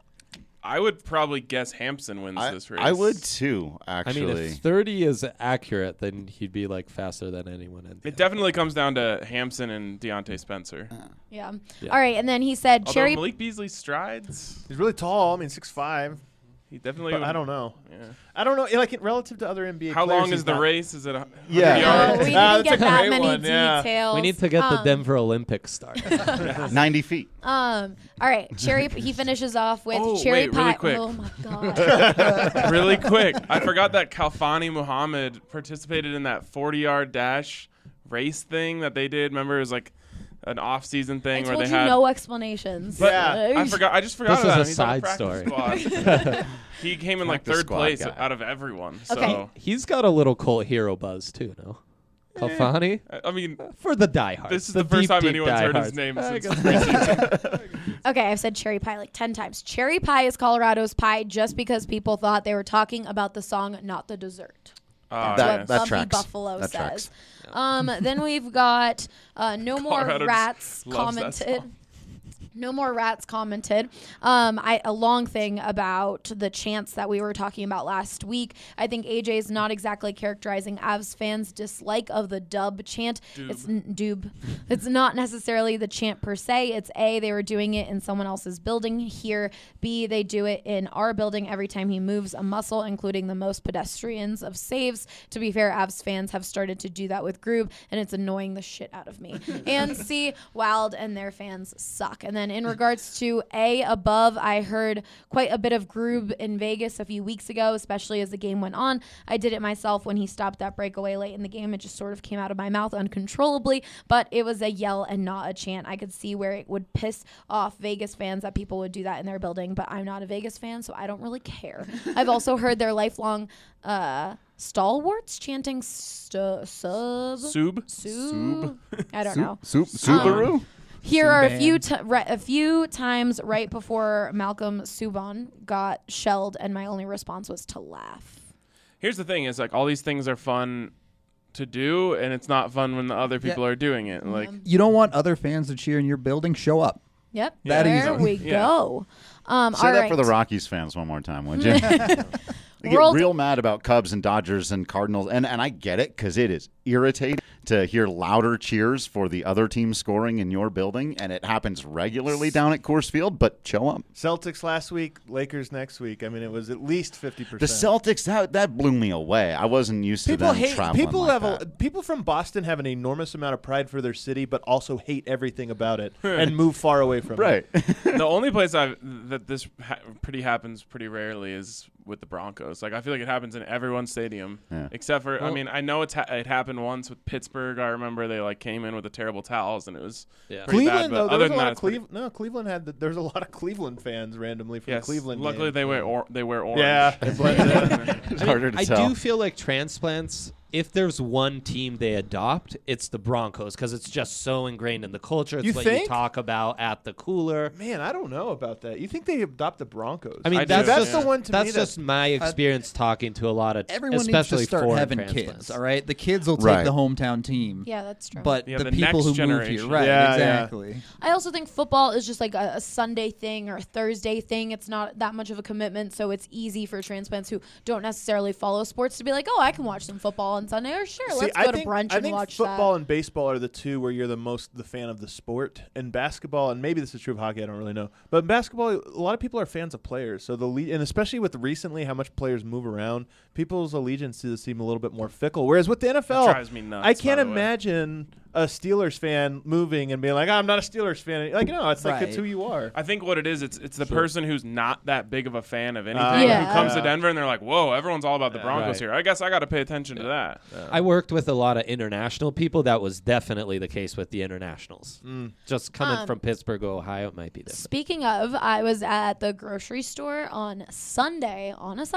I would probably guess Hampson wins this race. I would too, actually. I mean, if 30 is accurate, then he'd be like faster than anyone. It definitely comes down to Hampson and Deontay Spencer. Yeah. All right, and then he said Although Cherry. Malik Beasley's strides. He's really tall. I mean, 6'5". He definitely. But I don't know. Yeah. I don't know. Like relative to other NBA. How players, long is the race? Is it? No, we didn't get that many details. We need to get the Denver Olympics started. 90 feet. All right, Cherry. He finishes off with cherry pie. Really quick. Oh my god. Really quick. I forgot that Kalfani Muhammad participated in that 40-yard dash race thing that they did. Remember, it was like an off-season thing I where told they you had no explanations. But I forgot. I just forgot This about is him. a He's on side the practice squad. He came in like Practice third squad place guy. out of everyone. Okay. So He's got a little cult hero buzz too, no? Kalfani? I mean, For the diehards. this is the first time anyone's heard his name since preseason. Okay, I've said cherry pie like 10 times. Cherry pie is Colorado's pie just because people thought they were talking about the song, not the dessert. That's what Bumpy tracks. Buffalo That says. tracks. Then we've got No More Colorado Rats loves that commented. song. No More Rats commented a long thing about the chants that we were talking about last week. I think AJ is not exactly characterizing Avs fans' dislike of the dub chant. It's not necessarily the chant per se. It's A, they were doing it in someone else's building here. B, they do it in our building every time he moves a muscle, including the most pedestrians of saves. To be fair, Avs fans have started to do that with Groob, and it's annoying the shit out of me. And C, Wild and their fans suck. And then in regards to A, above, I heard quite a bit of Groob in Vegas a few weeks ago, especially as the game went on. I did it myself when he stopped that breakaway late in the game. It just sort of came out of my mouth uncontrollably, but it was a yell and not a chant. I could see where it would piss off Vegas fans that people would do that in their building, but I'm not a Vegas fan, so I don't really care. I've also heard their lifelong stalwarts chanting sub. I don't know. Subaru? Here are a few times right before Malcolm Subban got shelled, and my only response was to laugh. Here's the thing: is like all these things are fun to do, and it's not fun when the other people are doing it. Like You don't want other fans to cheer in your building? Show up. Yep, That there easy. we go. Say all that right. for the Rockies fans one more time, would you? They get World- real mad about Cubs and Dodgers and Cardinals, and I get it because it is irritating to hear louder cheers for the other team scoring in your building, and it happens regularly down at Coors Field, but show up. Celtics last week, Lakers next week. I mean, it was at least 50%. The Celtics, that blew me away. I wasn't used to them traveling like that. People from Boston have an enormous amount of pride for their city, but also hate everything about it and move far away from Right. it. the only place that this happens pretty rarely is with the Broncos. Like I feel like it happens in everyone's stadium, except for I mean I know it happened once with Pittsburgh. I remember they like came in with the terrible towels and it was pretty Cleveland bad. though, But there other was a than lot that, of Cleveland. Cleveland had there's a lot of Cleveland fans randomly from Cleveland. Luckily games. they wear orange. Yeah, It's harder to I tell. do feel like transplants if there's one team they adopt, it's the Broncos because it's just so ingrained in the culture. It's You what think? you talk about at the cooler. Man, I don't know about that. You think they adopt the Broncos? I mean, I that's do, just yeah. the one to me. that's just my experience talking to a lot of, Everyone especially needs to start foreign having transplants. kids, all right? The kids will take Right. the hometown team. Yeah, that's true. But Yeah, the the people next who move here, generation. right, Yeah, yeah. exactly. I also think football is just like a Sunday thing or a Thursday thing. It's not that much of a commitment, so it's easy for transplants who don't necessarily follow sports to be like, oh, I can watch some football on Sunday, or sure, let's go to brunch I and think watch football that. and baseball are the two where you're the most the fan of the sport. And basketball, and maybe this is true of hockey, I don't really know. But in basketball, a lot of people are fans of players. So and especially with recently how much players move around, people's allegiances seem a little bit more fickle. Whereas with the NFL, That drives me nuts, I can't by the way. imagine a Steelers fan moving and being like, I'm not a Steelers fan. Like, no, it's like it's Right. who you are. I think what it is, it's the person who's not that big of a fan of anything Yeah. who comes to Denver and they're like, whoa, everyone's all about the Broncos Right. here. I guess I got to pay attention to that. I worked with a lot of international people. That was definitely the case with the internationals. Just coming from Pittsburgh, Ohio, it might be different. Speaking of, I was at the grocery store on a Sunday,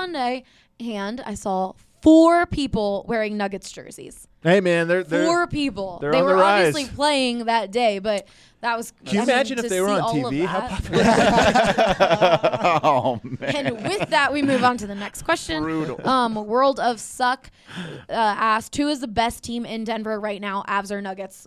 and I saw 4 people wearing Nuggets jerseys. Hey, man, they're 4 people. they're They on were the rise. obviously playing that day, but that was. Can you I mean, imagine if to they were see on all of TV? How that. popular? Oh man. And with that, we move on to the next question. Brutal. World of Suck asked, who is the best team in Denver right now, Avs or Nuggets?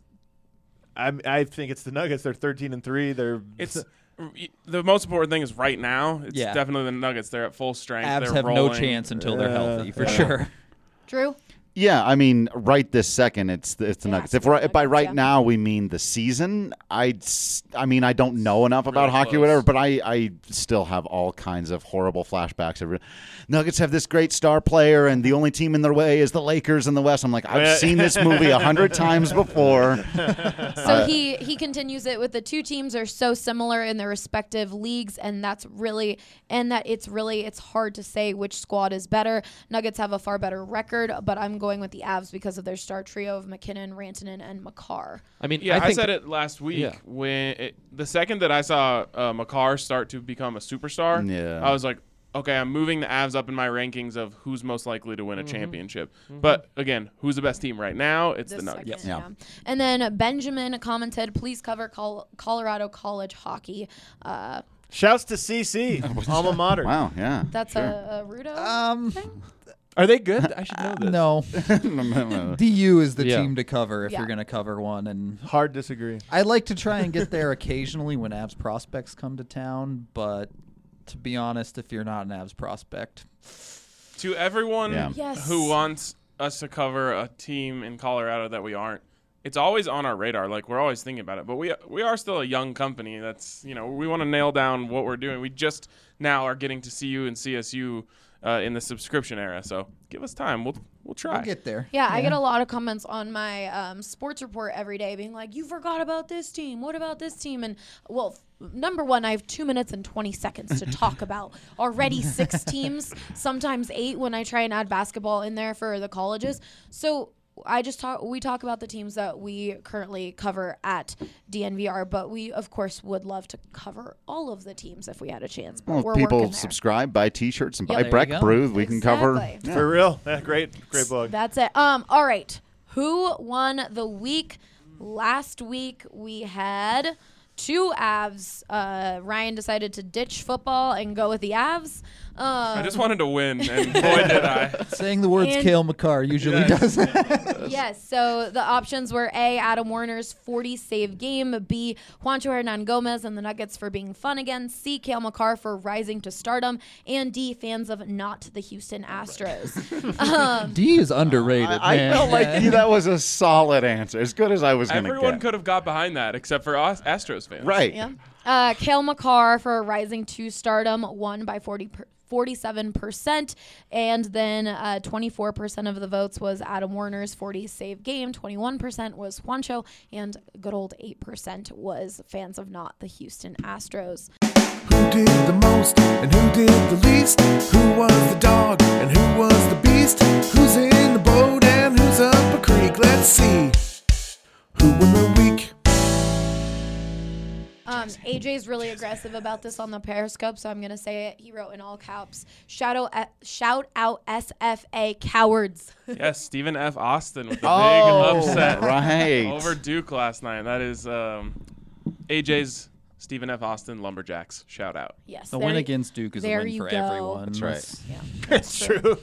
I think it's the Nuggets. They're 13-3. They're It's the most important thing is right now. It's Yeah. definitely the Nuggets. They're at full strength. Avs They're have rolling. no chance until they're healthy, for Yeah. sure. Drew? Yeah, I mean, right this second, it's the Nuggets. it's If by Nuggets, right yeah. now we mean the season, I don't know enough about Really hockey or close. whatever, but I still have all kinds of horrible flashbacks. Nuggets have this great star player, and the only team in their way is the Lakers in the West. I'm like, I've seen this movie 100 times before. So he continues it with the two teams are so similar in their respective leagues, and it's hard to say which squad is better. Nuggets have a far better record, but I'm going with the Avs because of their star trio of McKinnon, Rantanen, and Makar. I mean, Yeah, I, think said it last week Yeah. when the second that I saw Makar start to become a superstar, Yeah. I was like, okay, I'm moving the Avs up in my rankings of who's most likely to win a championship. But again, who's the best team right now? It's the This Nuggets. second, Yeah. And then Benjamin commented, please cover Colorado college hockey. Shouts to CC, alma mater. Wow, yeah. That's sure. a Rudo thing? Are they good? I should know this. No. DU is the Yeah. team to cover if Yeah. you're going to cover one. And Hard disagree. I like to try and get there occasionally when Avs prospects come to town, but to be honest, if you're not an Avs prospect, To everyone Yeah. Yes. who wants us to cover a team in Colorado that we aren't, it's always on our radar. Like, we're always thinking about it. But we are still a young company. That's, we want to nail down what we're doing. We just now are getting to CU and CSU in the subscription era. So give us time. We'll try. we'll get there. Yeah, I get a lot of comments on my sports report every day being like, you forgot about this team. What about this team? And, well, number one, I have 2 minutes and 20 seconds to talk about. Already 6 teams, sometimes 8 when I try and add basketball in there for the colleges. So we talk about the teams that we currently cover at DNVR, but we, of course, would love to cover all of the teams if we had a chance. But Well, we're if people working there. subscribe, buy T-shirts, and Yeah, buy there you Breck go. Brew. We can cover. Exactly. For real. Yeah, great blog. That's it. All right. Who won the week? Last week we had 2 Avs. Ryan decided to ditch football and go with the Avs. I just wanted to win, and boy, did I. Saying the words And- Cale Makar usually Yes. does that. Yes. So the options were A, Adam Warner's 40 save game. B, Juancho Hernan Gomez and the Nuggets for being fun again. C, Cale Makar for rising to stardom. And D, fans of not the Houston Astros. D is underrated, I man. felt like that was a solid answer, as good as I was going to Everyone get. could have got behind that except for us Astros fans. Right. Yeah. Cale Makar for rising to stardom won by 47%, and then 24% of the votes was Adam Warner's 40 save game, 21% was Juancho, and good old 8% was fans of not the Houston Astros. Who did the most and who did the least? Who was the dog and who was the beast? Who's in the boat and who's up a creek? Let's see. Who won the week? AJ's really aggressive about this on the Periscope, so I'm gonna say it. He wrote in all caps, shout out SFA cowards. Yes, Stephen F. Austin with a big Oh, upset right. over Duke last night. That is AJ's Stephen F. Austin Lumberjacks. Shout out. Yes. The win against Duke is a there win you for go. everyone. That's right. Yeah, It's true.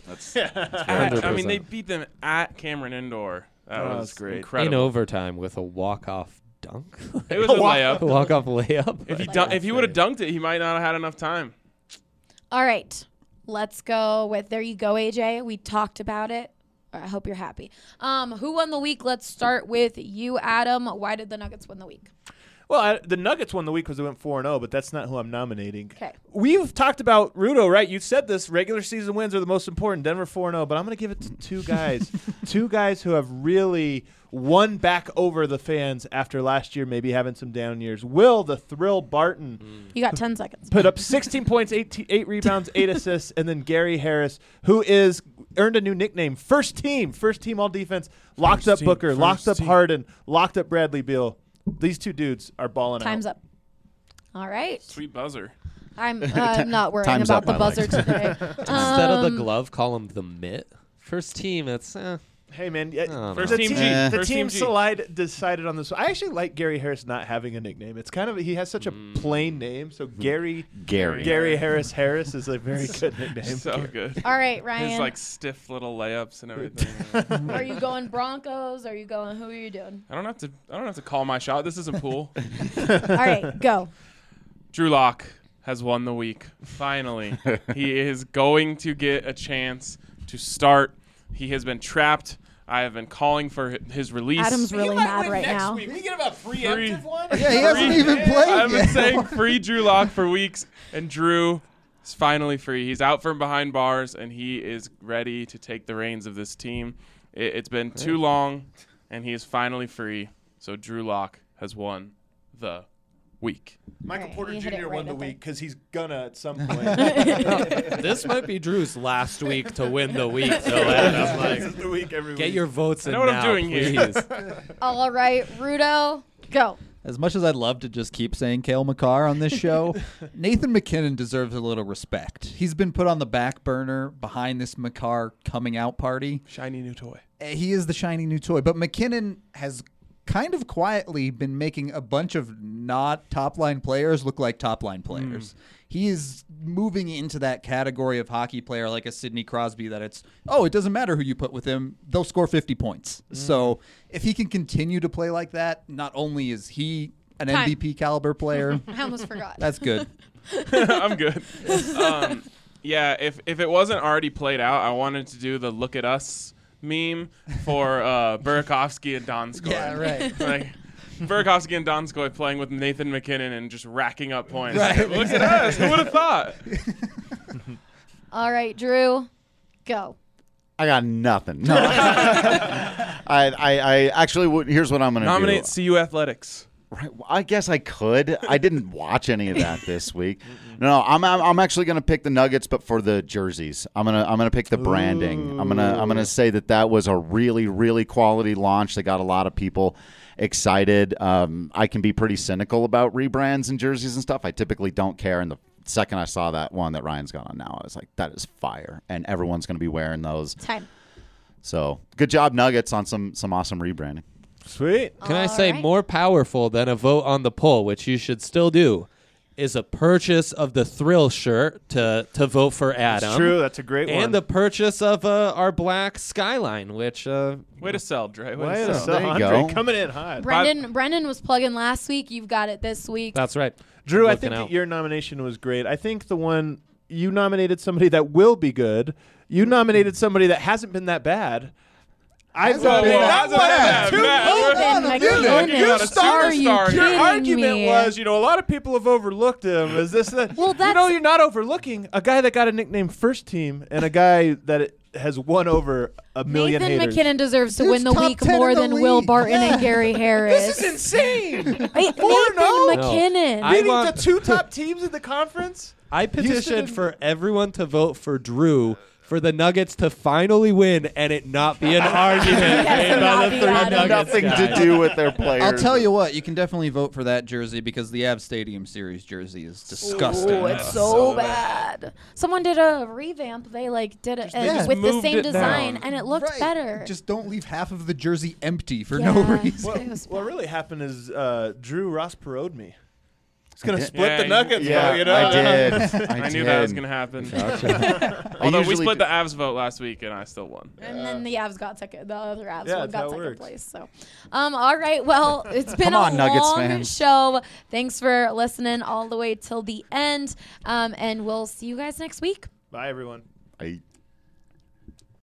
I mean, they beat them at Cameron Indoor. That was great. In incredible. overtime with a walk-off dunk. It was a layup. Walk-off layup. If he would have dunked it, he might not have had enough time. All right. Let's go with there you go, AJ. We talked about it. I hope you're happy. Who won the week? Let's start with you, Adam. Why did the Nuggets win the week? Well, the Nuggets won the week because they went 4-0, but that's not who I'm nominating. Okay. We've talked about Rudo, right? You said this. Regular season wins are the most important. Denver 4-0, but I'm going to give it to two guys. Two guys who have really won back over the fans after last year maybe having some down years. Will the Thrill Barton You got 10 seconds. put up 16 points, 8 rebounds, 8 assists, and then Gary Harris, who earned a new nickname, First Team all defense, locked up Booker, locked up Harden, locked up Bradley Beal. These two dudes are balling out. Time's up. All right. Sweet buzzer. I'm not worrying Time's about up, the I buzzer like. today. Instead of the glove, call him the mitt. First team, it's Hey, man. First The team team, G. the First team team G. decided on this. I actually like Gary Harris not having a nickname. It's kind of he has such a plain name. So Gary Harris is a very good nickname. So good. All right, Ryan. His like stiff little layups and everything. Are you going Broncos? Are you going? Who are you doing? I don't have to call my shot. This isn't pool. All right, go. Drew Lock has won the week. Finally, he is going to get a chance to start. He has been trapped. I have been calling for his release. Adam's really mad right now. Can we get a preemptive one? Yeah, he hasn't even played I've been yet. saying free Drew Lock for weeks, and Drew is finally free. He's out from behind bars, and he is ready to take the reins of this team. It's been too long, and he is finally free. So Drew Lock has won the week. Michael Right, Porter you hit it Jr. right won the at the- week because he's gonna at some point. this might be Drew's last week to win the week. So Adam, This is the week every get week. your votes in know what I'm now, doing here. please. All right, Rudo, go. As much as I'd love to just keep saying Cale Makar on this show, Nathan McKinnon deserves a little respect. He's been put on the back burner behind this Makar coming out party. Shiny new toy. He is the shiny new toy, but McKinnon has kind of quietly been making a bunch of not top-line players look like top-line players. He is moving into that category of hockey player like a Sidney Crosby that it doesn't matter who you put with him, they'll score 50 points. So if he can continue to play like that, not only is he an Time. MVP caliber player, I almost forgot. that's good. I'm good. Yeah, if it wasn't already played out, I wanted to do the look at us meme for Burakovsky and Donskoy. Yeah, right. Like Burakovsky and Donskoy playing with Nathan McKinnon and just racking up points. Right, Look at us. Who would have thought? All right, Drew, go. I got nothing. No. I actually would. Here's what I'm going to do. Nominate CU Athletics. Right. Well, I guess I could. I didn't watch any of that this week. No, I'm actually going to pick the Nuggets, but for the jerseys. I'm gonna pick the branding. I'm gonna say that was a really, really quality launch. They got a lot of people excited. I can be pretty cynical about rebrands and jerseys and stuff. I typically don't care. And the second I saw that one that Ryan's got on now, I was like, that is fire, and everyone's going to be wearing those. Time. So good job, Nuggets, on some awesome rebranding. Sweet. Can I All say right. more powerful than a vote on the poll, which you should still do, is a purchase of the Thrill shirt to vote for Adam. That's true. That's a great one. And the purchase of our black Skyline, which Way to sell, Dre. Way Way to to sell. There you Andre go. coming in hot. Brendan was plugging last week. You've got it this week. that's right. Drew, I Looking think out. that your nomination was great. I think the one you nominated somebody that will be good. You nominated somebody that hasn't been that bad. I thought Hasn't been that Too bad. Nathan You're McKinnon. not a Are you superstar. kidding Your argument me? was, a lot of people have overlooked him. Is this that? Well, you're not overlooking a guy that got a nickname First Team and a guy that has won over a million Nathan haters. McKinnon deserves to Dude's win the top week 10 more in the than Will league. Barton and Gary Harris. This is insane. Wait, 4-0? Nathan McKinnon. I Beating want- the two top teams in the conference. I petitioned and- for everyone to vote for Drew for the Nuggets to finally win and it not be an argument made by the 3 Nuggets Nothing guys. to do with their players. I'll tell you what, you can definitely vote for that jersey because the Avs Stadium Series jersey is disgusting. Oh, it's so bad. Someone did a revamp. They did it just with the moved same it design, down. and it looked better. Just don't leave half of the jersey empty for Yeah. no reason. It was What really happened is Drew Ross parodied me. He's going to did. split Yeah, the Nuggets, Yeah, you know? I did. I knew that was going to happen. Although we usually split do- the Avs vote last week, and I still won. And then the Avs got second. The other Avs Yeah, one that's how got it second works. place. So, all right. Well, it's been Come on, a Nuggets long fans. show. Thanks for listening all the way till the end. And we'll see you guys next week. Bye, everyone. I